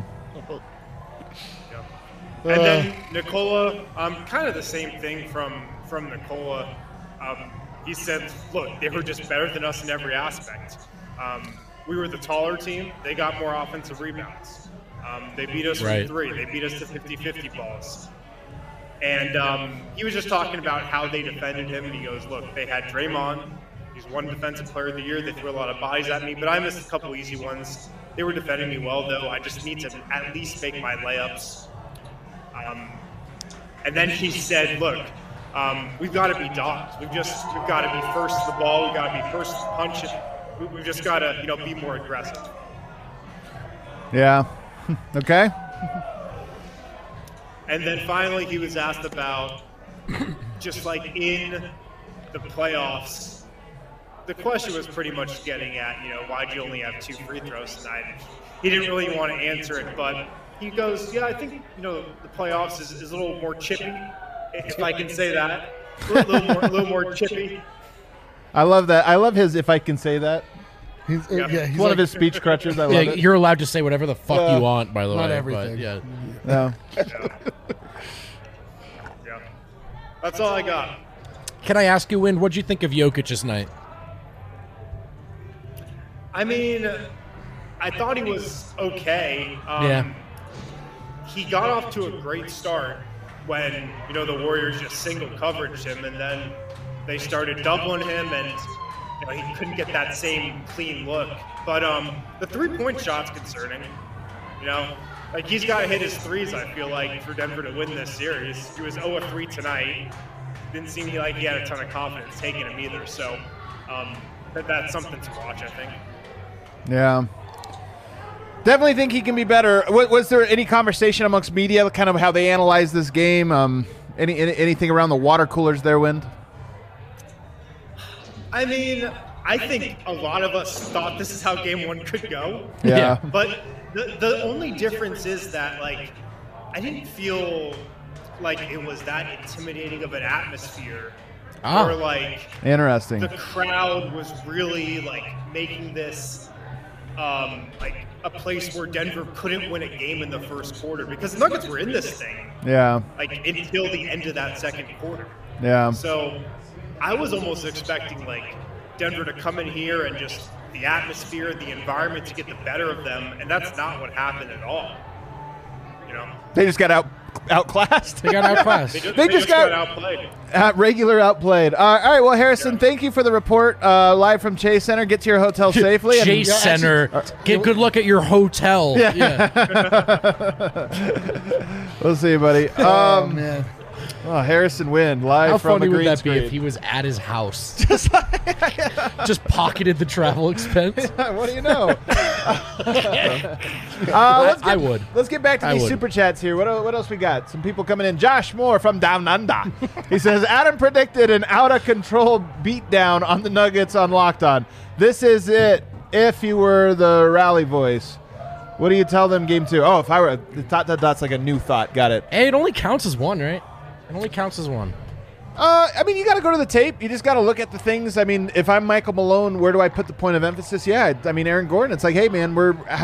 [SPEAKER 5] And then Nikola, kind of the same thing from Nikola. He said, look, they were just better than us in every aspect. We were the taller team. They got more offensive rebounds. They beat us from three. They beat us to 50-50 balls. And he was just talking about how they defended him. And he goes, look, they had Draymond. He's one defensive player of the year. They threw a lot of bodies at me, but I missed a couple easy ones. They were defending me well, though. I just need to at least make my layups. And then he said, look, we've got to be dogs. We've got to be first to the ball. We've got to be first to punch it. We've just got to, be more aggressive.
[SPEAKER 1] Yeah. Okay.
[SPEAKER 5] And then finally he was asked about just like in the playoffs. The question was pretty much getting at, why'd you only have 2 free throws tonight? He didn't really want to answer it, but he goes, yeah, I think, the playoffs is a little more chippy, if I can say that. A little more chippy.
[SPEAKER 1] I love that. I love his, if I can say that.
[SPEAKER 2] He's
[SPEAKER 1] It's one of his speech crutches. I love it.
[SPEAKER 3] You're allowed to say whatever the fuck you want, by the way.
[SPEAKER 2] Not everything.
[SPEAKER 3] But, yeah.
[SPEAKER 1] No.
[SPEAKER 5] Yeah. That's all I got.
[SPEAKER 3] Can I ask you, Wind, what'd you think of Jokic's night?
[SPEAKER 5] I mean, I thought he was okay. He got off to a great start when, the Warriors just single coveraged him, and then they started doubling him, and he couldn't get that same clean look. But the 3-point shot's concerning. Like he's got to hit his threes, I feel like, for Denver to win this series. He was 0 of 3 tonight. Didn't seem like he had a ton of confidence taking him either. So that's something to watch, I think.
[SPEAKER 1] Yeah. Definitely think he can be better. Was there any conversation amongst media, kind of how they analyze this game? Anything around the water coolers there, Wind?
[SPEAKER 5] I mean, I think a lot of us thought this is how Game 1 could go.
[SPEAKER 1] Yeah.
[SPEAKER 5] But the only difference is that, like, I didn't feel like it was that intimidating of an atmosphere. Or, like,
[SPEAKER 1] interesting.
[SPEAKER 5] The crowd was really, like, making this, like, a place where Denver couldn't win a game in the first quarter because the Nuggets were in this thing.
[SPEAKER 1] Yeah.
[SPEAKER 5] Like, until the end of that second quarter.
[SPEAKER 1] Yeah.
[SPEAKER 5] So I was almost expecting, like, Denver to come in here and just the atmosphere, the environment to get the better of them, and that's not what happened at all.
[SPEAKER 1] They just got outclassed.
[SPEAKER 3] They got outclassed.
[SPEAKER 5] They just got outplayed.
[SPEAKER 1] Regular outplayed. All right, well, Harrison, thank you for the report live from Chase Center. Get to your hotel safely.
[SPEAKER 3] Chase Center. Get a good look at your hotel. Yeah.
[SPEAKER 1] We'll see you, buddy.
[SPEAKER 2] Oh, man.
[SPEAKER 1] Oh, Harrison Wind, live
[SPEAKER 3] How
[SPEAKER 1] from
[SPEAKER 3] funny
[SPEAKER 1] the
[SPEAKER 3] would
[SPEAKER 1] green
[SPEAKER 3] that
[SPEAKER 1] screen.
[SPEAKER 3] be if he was at his house? Just pocketed the travel expense.
[SPEAKER 1] What do you know?
[SPEAKER 3] I would.
[SPEAKER 1] Let's get back to these super chats here. What else we got? Some people coming in. Josh Moore from Down Under. He says, Adam predicted an out-of-control beatdown on the Nuggets on Locked On. This is it if you were the rally voice. What do you tell them game 2? Oh, if I were dot's like a new thought. Got it.
[SPEAKER 3] Hey, it only counts as one, right? It only counts as one.
[SPEAKER 1] I mean, you got to go to the tape. You just got to look at the things. I mean, if I'm Michael Malone, where do I put the point of emphasis? Yeah, I mean, Aaron Gordon. It's like, hey, man,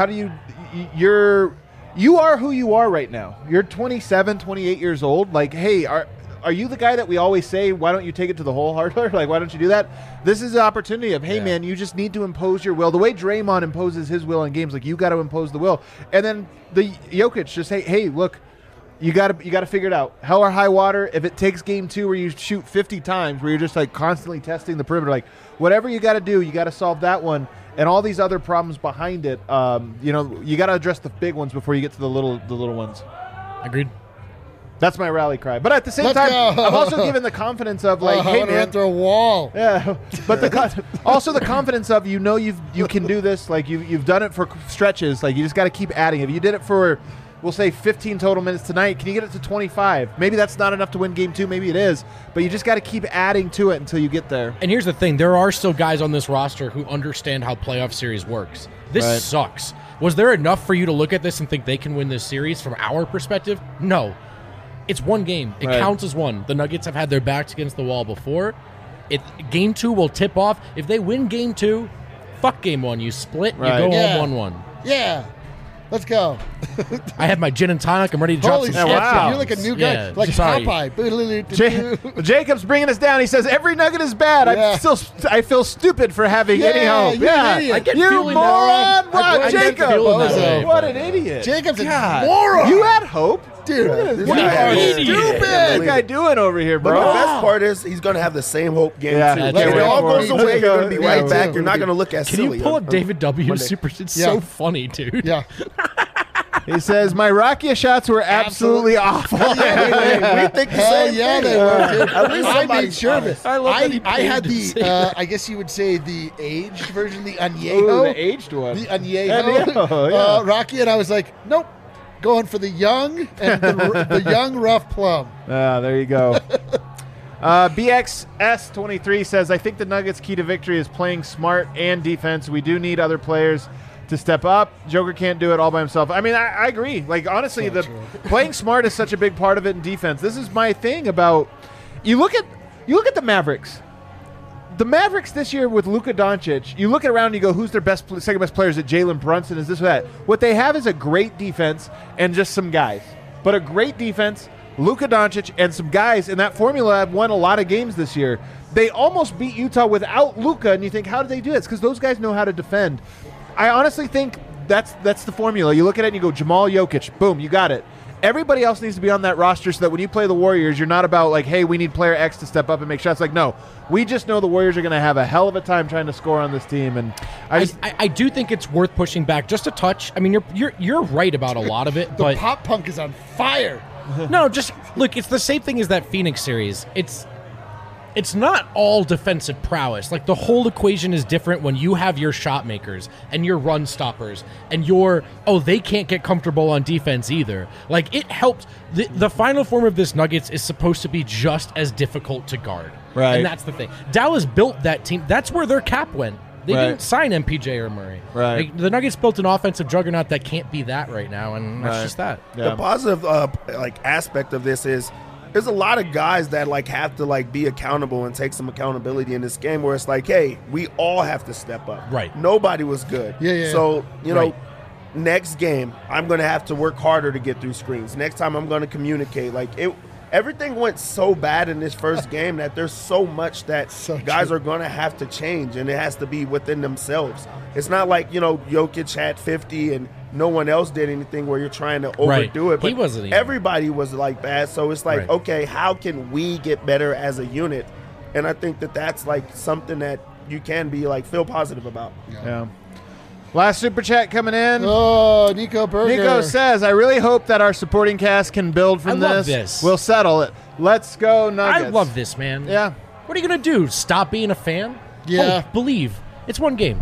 [SPEAKER 1] you are who you are right now. You're 27, 28 years old. Like, hey, are you the guy that we always say, why don't you take it to the hole harder? Like, why don't you do that? This is the opportunity of, hey, man, you just need to impose your will. The way Draymond imposes his will in games, like, you got to impose the will. And then the Jokic just say, hey, look, you got to figure it out. Hell or high water. If it takes game 2 where you shoot 50 times, where you're just like constantly testing the perimeter, like whatever you got to do, you got to solve that one and all these other problems behind it. You got to address the big ones before you get to the little ones.
[SPEAKER 3] Agreed.
[SPEAKER 1] That's my rally cry. But at the same time, I'm also given the confidence of like, hey, man,
[SPEAKER 2] run through a wall.
[SPEAKER 1] Yeah, but also the confidence of you can do this. Like you've done it for stretches. Like you just got to keep adding. If you did it for, we'll say 15 total minutes tonight, can you get it to 25? Maybe that's not enough to win game 2. Maybe it is. But you just got to keep adding to it until you get there.
[SPEAKER 3] And here's the thing. There are still guys on this roster who understand how playoff series works. This sucks. Was there enough for you to look at this and think they can win this series from our perspective? No. It's one game. It counts as one. The Nuggets have had their backs against the wall before. Game 2 will tip off. If they win game 2, fuck game 1. You split, you go home 1-1.
[SPEAKER 2] Yeah. Let's go.
[SPEAKER 3] I have my gin and tonic. I'm ready to drop
[SPEAKER 2] Holy
[SPEAKER 3] some
[SPEAKER 2] shit.
[SPEAKER 3] shit.
[SPEAKER 1] Wow.
[SPEAKER 2] You're like a new guy.
[SPEAKER 3] Yeah,
[SPEAKER 2] Like
[SPEAKER 3] sorry.
[SPEAKER 2] Popeye.
[SPEAKER 1] Jacob's bringing us down. He says every Nugget is bad.
[SPEAKER 2] Yeah.
[SPEAKER 1] I feel stupid for having any hope.
[SPEAKER 2] You're an idiot.
[SPEAKER 3] I get
[SPEAKER 1] you
[SPEAKER 3] feeling
[SPEAKER 1] moron!
[SPEAKER 3] that way.
[SPEAKER 1] Wow,
[SPEAKER 3] I get
[SPEAKER 1] Jacob!
[SPEAKER 3] feeling that way,
[SPEAKER 1] What
[SPEAKER 3] but-
[SPEAKER 1] an idiot!
[SPEAKER 2] Jacob's a
[SPEAKER 1] God.
[SPEAKER 2] moron.
[SPEAKER 1] You had hope.
[SPEAKER 2] Dude,
[SPEAKER 1] What
[SPEAKER 2] we are
[SPEAKER 1] is
[SPEAKER 2] stupid.
[SPEAKER 1] What's the guy doing over here,
[SPEAKER 4] But
[SPEAKER 1] bro?
[SPEAKER 4] the best part is he's going to have the same hope game
[SPEAKER 1] Yeah,
[SPEAKER 4] too.
[SPEAKER 1] that's
[SPEAKER 4] Like,
[SPEAKER 1] right.
[SPEAKER 4] it all goes
[SPEAKER 2] Me
[SPEAKER 4] away.
[SPEAKER 2] too.
[SPEAKER 4] You're going to be
[SPEAKER 2] Yeah,
[SPEAKER 4] right
[SPEAKER 2] me
[SPEAKER 4] back.
[SPEAKER 2] too.
[SPEAKER 4] You're not going to look as
[SPEAKER 3] Can
[SPEAKER 4] silly.
[SPEAKER 3] you pull
[SPEAKER 4] on-
[SPEAKER 3] up David W.
[SPEAKER 4] Monday.
[SPEAKER 3] Super? It's
[SPEAKER 2] Yeah.
[SPEAKER 3] so funny, dude.
[SPEAKER 2] Yeah.
[SPEAKER 1] He says, my Rakia shots were absolutely awful.
[SPEAKER 4] We think the
[SPEAKER 2] Hell
[SPEAKER 4] same
[SPEAKER 2] yeah,
[SPEAKER 4] thing.
[SPEAKER 2] they were, dude.
[SPEAKER 4] At least
[SPEAKER 2] I
[SPEAKER 4] somebody's
[SPEAKER 2] made sure of it.
[SPEAKER 4] honest.
[SPEAKER 3] I love that he
[SPEAKER 2] I had
[SPEAKER 3] paid to say that.
[SPEAKER 2] I guess you would say the aged version, the
[SPEAKER 1] Ooh,
[SPEAKER 2] Añejo.
[SPEAKER 1] the aged one.
[SPEAKER 2] The Añejo.
[SPEAKER 1] Añejo, yeah.
[SPEAKER 2] Rocky, and I was like, nope. Going for the young and the young rough plum.
[SPEAKER 1] There you go. BXS23 says, I think the Nuggets' key to victory is playing smart and defense. We do need other players to step up. Joker can't do it all by himself. I mean, I agree. Like, honestly,
[SPEAKER 2] So
[SPEAKER 1] the
[SPEAKER 2] true.
[SPEAKER 1] playing smart is such a big part of it in defense. This is my thing about you look at the Mavericks. The Mavericks this year with Luka Doncic, you look around and you go, who's their second best player? Is it Jalen Brunson? Is this or that? What they have is a great defense and just some guys. But a great defense, Luka Doncic, and some guys, and that formula have won a lot of games this year. They almost beat Utah without Luka, and you think, how did they do it? It's because those guys know how to defend. I honestly think that's the formula. You look at it and you go, Jamal Jokic, boom, you got it. Everybody else needs to be on that roster so that when you play the Warriors, you're not about like, hey, we need player X to step up and make shots. Like, no, we just know the Warriors are going to have a hell of a time trying to score on this team. And
[SPEAKER 3] I do think it's worth pushing back just a touch. I mean, you're right about a lot of it,
[SPEAKER 2] The
[SPEAKER 3] but
[SPEAKER 2] pop punk is on fire.
[SPEAKER 3] no, just look. It's the same thing as that Phoenix series. It's not all defensive prowess. Like, the whole equation is different when you have your shot makers and your run stoppers and they can't get comfortable on defense either. Like, it helped. The final form of this Nuggets is supposed to be just as difficult to guard.
[SPEAKER 1] Right.
[SPEAKER 3] And that's the thing. Dallas built that team. That's where their cap went. They
[SPEAKER 1] Right.
[SPEAKER 3] didn't sign MPJ or Murray.
[SPEAKER 1] Right.
[SPEAKER 3] Like, the Nuggets built an offensive juggernaut that can't be that right now, and that's
[SPEAKER 1] Right.
[SPEAKER 3] just that.
[SPEAKER 1] Yeah.
[SPEAKER 4] The positive aspect of this is there's a lot of guys that like have to like be accountable and take some accountability in this game where it's like, hey, we all have to step up.
[SPEAKER 3] Right.
[SPEAKER 4] Nobody was good.
[SPEAKER 2] Yeah.
[SPEAKER 4] So, you know,
[SPEAKER 3] Right.
[SPEAKER 4] next game I'm going to have to work harder to get through screens. Next time I'm going to communicate. Like everything went so bad in this first game that there's so much that
[SPEAKER 2] So
[SPEAKER 4] guys
[SPEAKER 2] true.
[SPEAKER 4] are going to have to change, and it has to be within themselves. It's not like, you know, Jokic had 50 and no one else did anything where you're trying to
[SPEAKER 3] Right.
[SPEAKER 4] overdo it. But
[SPEAKER 3] He wasn't even-
[SPEAKER 4] everybody was like bad. So it's like,
[SPEAKER 3] Right.
[SPEAKER 4] okay, how can we get better as a unit? And I think that that's like something that you can be like feel positive about.
[SPEAKER 1] Yeah. Last super chat coming in.
[SPEAKER 2] Oh, Nico Berger.
[SPEAKER 1] Nico says, I really hope that our supporting cast can build from
[SPEAKER 3] I love this.
[SPEAKER 1] We'll settle it. Let's go Nuggets.
[SPEAKER 3] I love this, man.
[SPEAKER 1] Yeah.
[SPEAKER 3] What are you going to do? Stop being a fan?
[SPEAKER 2] Yeah.
[SPEAKER 3] Oh, believe. It's one game.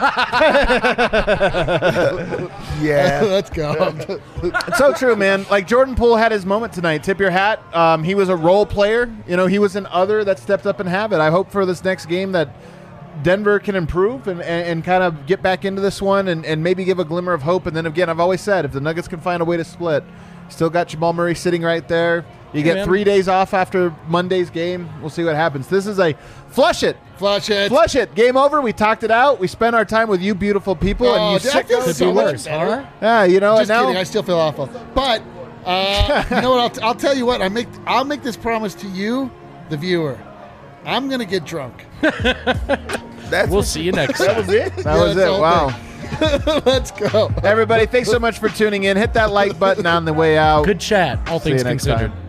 [SPEAKER 4] Yeah.
[SPEAKER 2] Let's go.
[SPEAKER 1] It's so true, man. Like, Jordan Poole had his moment tonight. Tip your hat. He was a role player. You know, he was an other that stepped up and have it. I hope for this next game that Denver can improve and kind of get back into this one and maybe give a glimmer of hope. And then again, I've always said, if the Nuggets can find a way to split, still got Jamal Murray sitting right there. You get
[SPEAKER 3] man.
[SPEAKER 1] 3 days off after Monday's game. We'll see what happens. This is a flush it.
[SPEAKER 2] Flush it.
[SPEAKER 1] Flush it. Game over. We talked it out. We spent our time with you beautiful people. and you
[SPEAKER 2] dude, I feel
[SPEAKER 1] sickos.
[SPEAKER 2] so
[SPEAKER 3] be
[SPEAKER 2] much
[SPEAKER 3] worse,
[SPEAKER 2] better.
[SPEAKER 3] huh?
[SPEAKER 1] Yeah, you know,
[SPEAKER 2] Just
[SPEAKER 1] and now
[SPEAKER 2] kidding. I still feel awful. But you know what? I'll tell you what. I'll make this promise to you, the viewer. I'm gonna get drunk.
[SPEAKER 4] That's
[SPEAKER 3] We'll see you next time.
[SPEAKER 4] That was it.
[SPEAKER 1] that was
[SPEAKER 2] that's
[SPEAKER 1] it.
[SPEAKER 2] all
[SPEAKER 1] Wow.
[SPEAKER 2] Let's go.
[SPEAKER 1] Everybody, thanks so much for tuning in. Hit that like button on the way out.
[SPEAKER 3] Good chat, all
[SPEAKER 1] See
[SPEAKER 3] things
[SPEAKER 1] you next
[SPEAKER 3] considered.
[SPEAKER 1] time.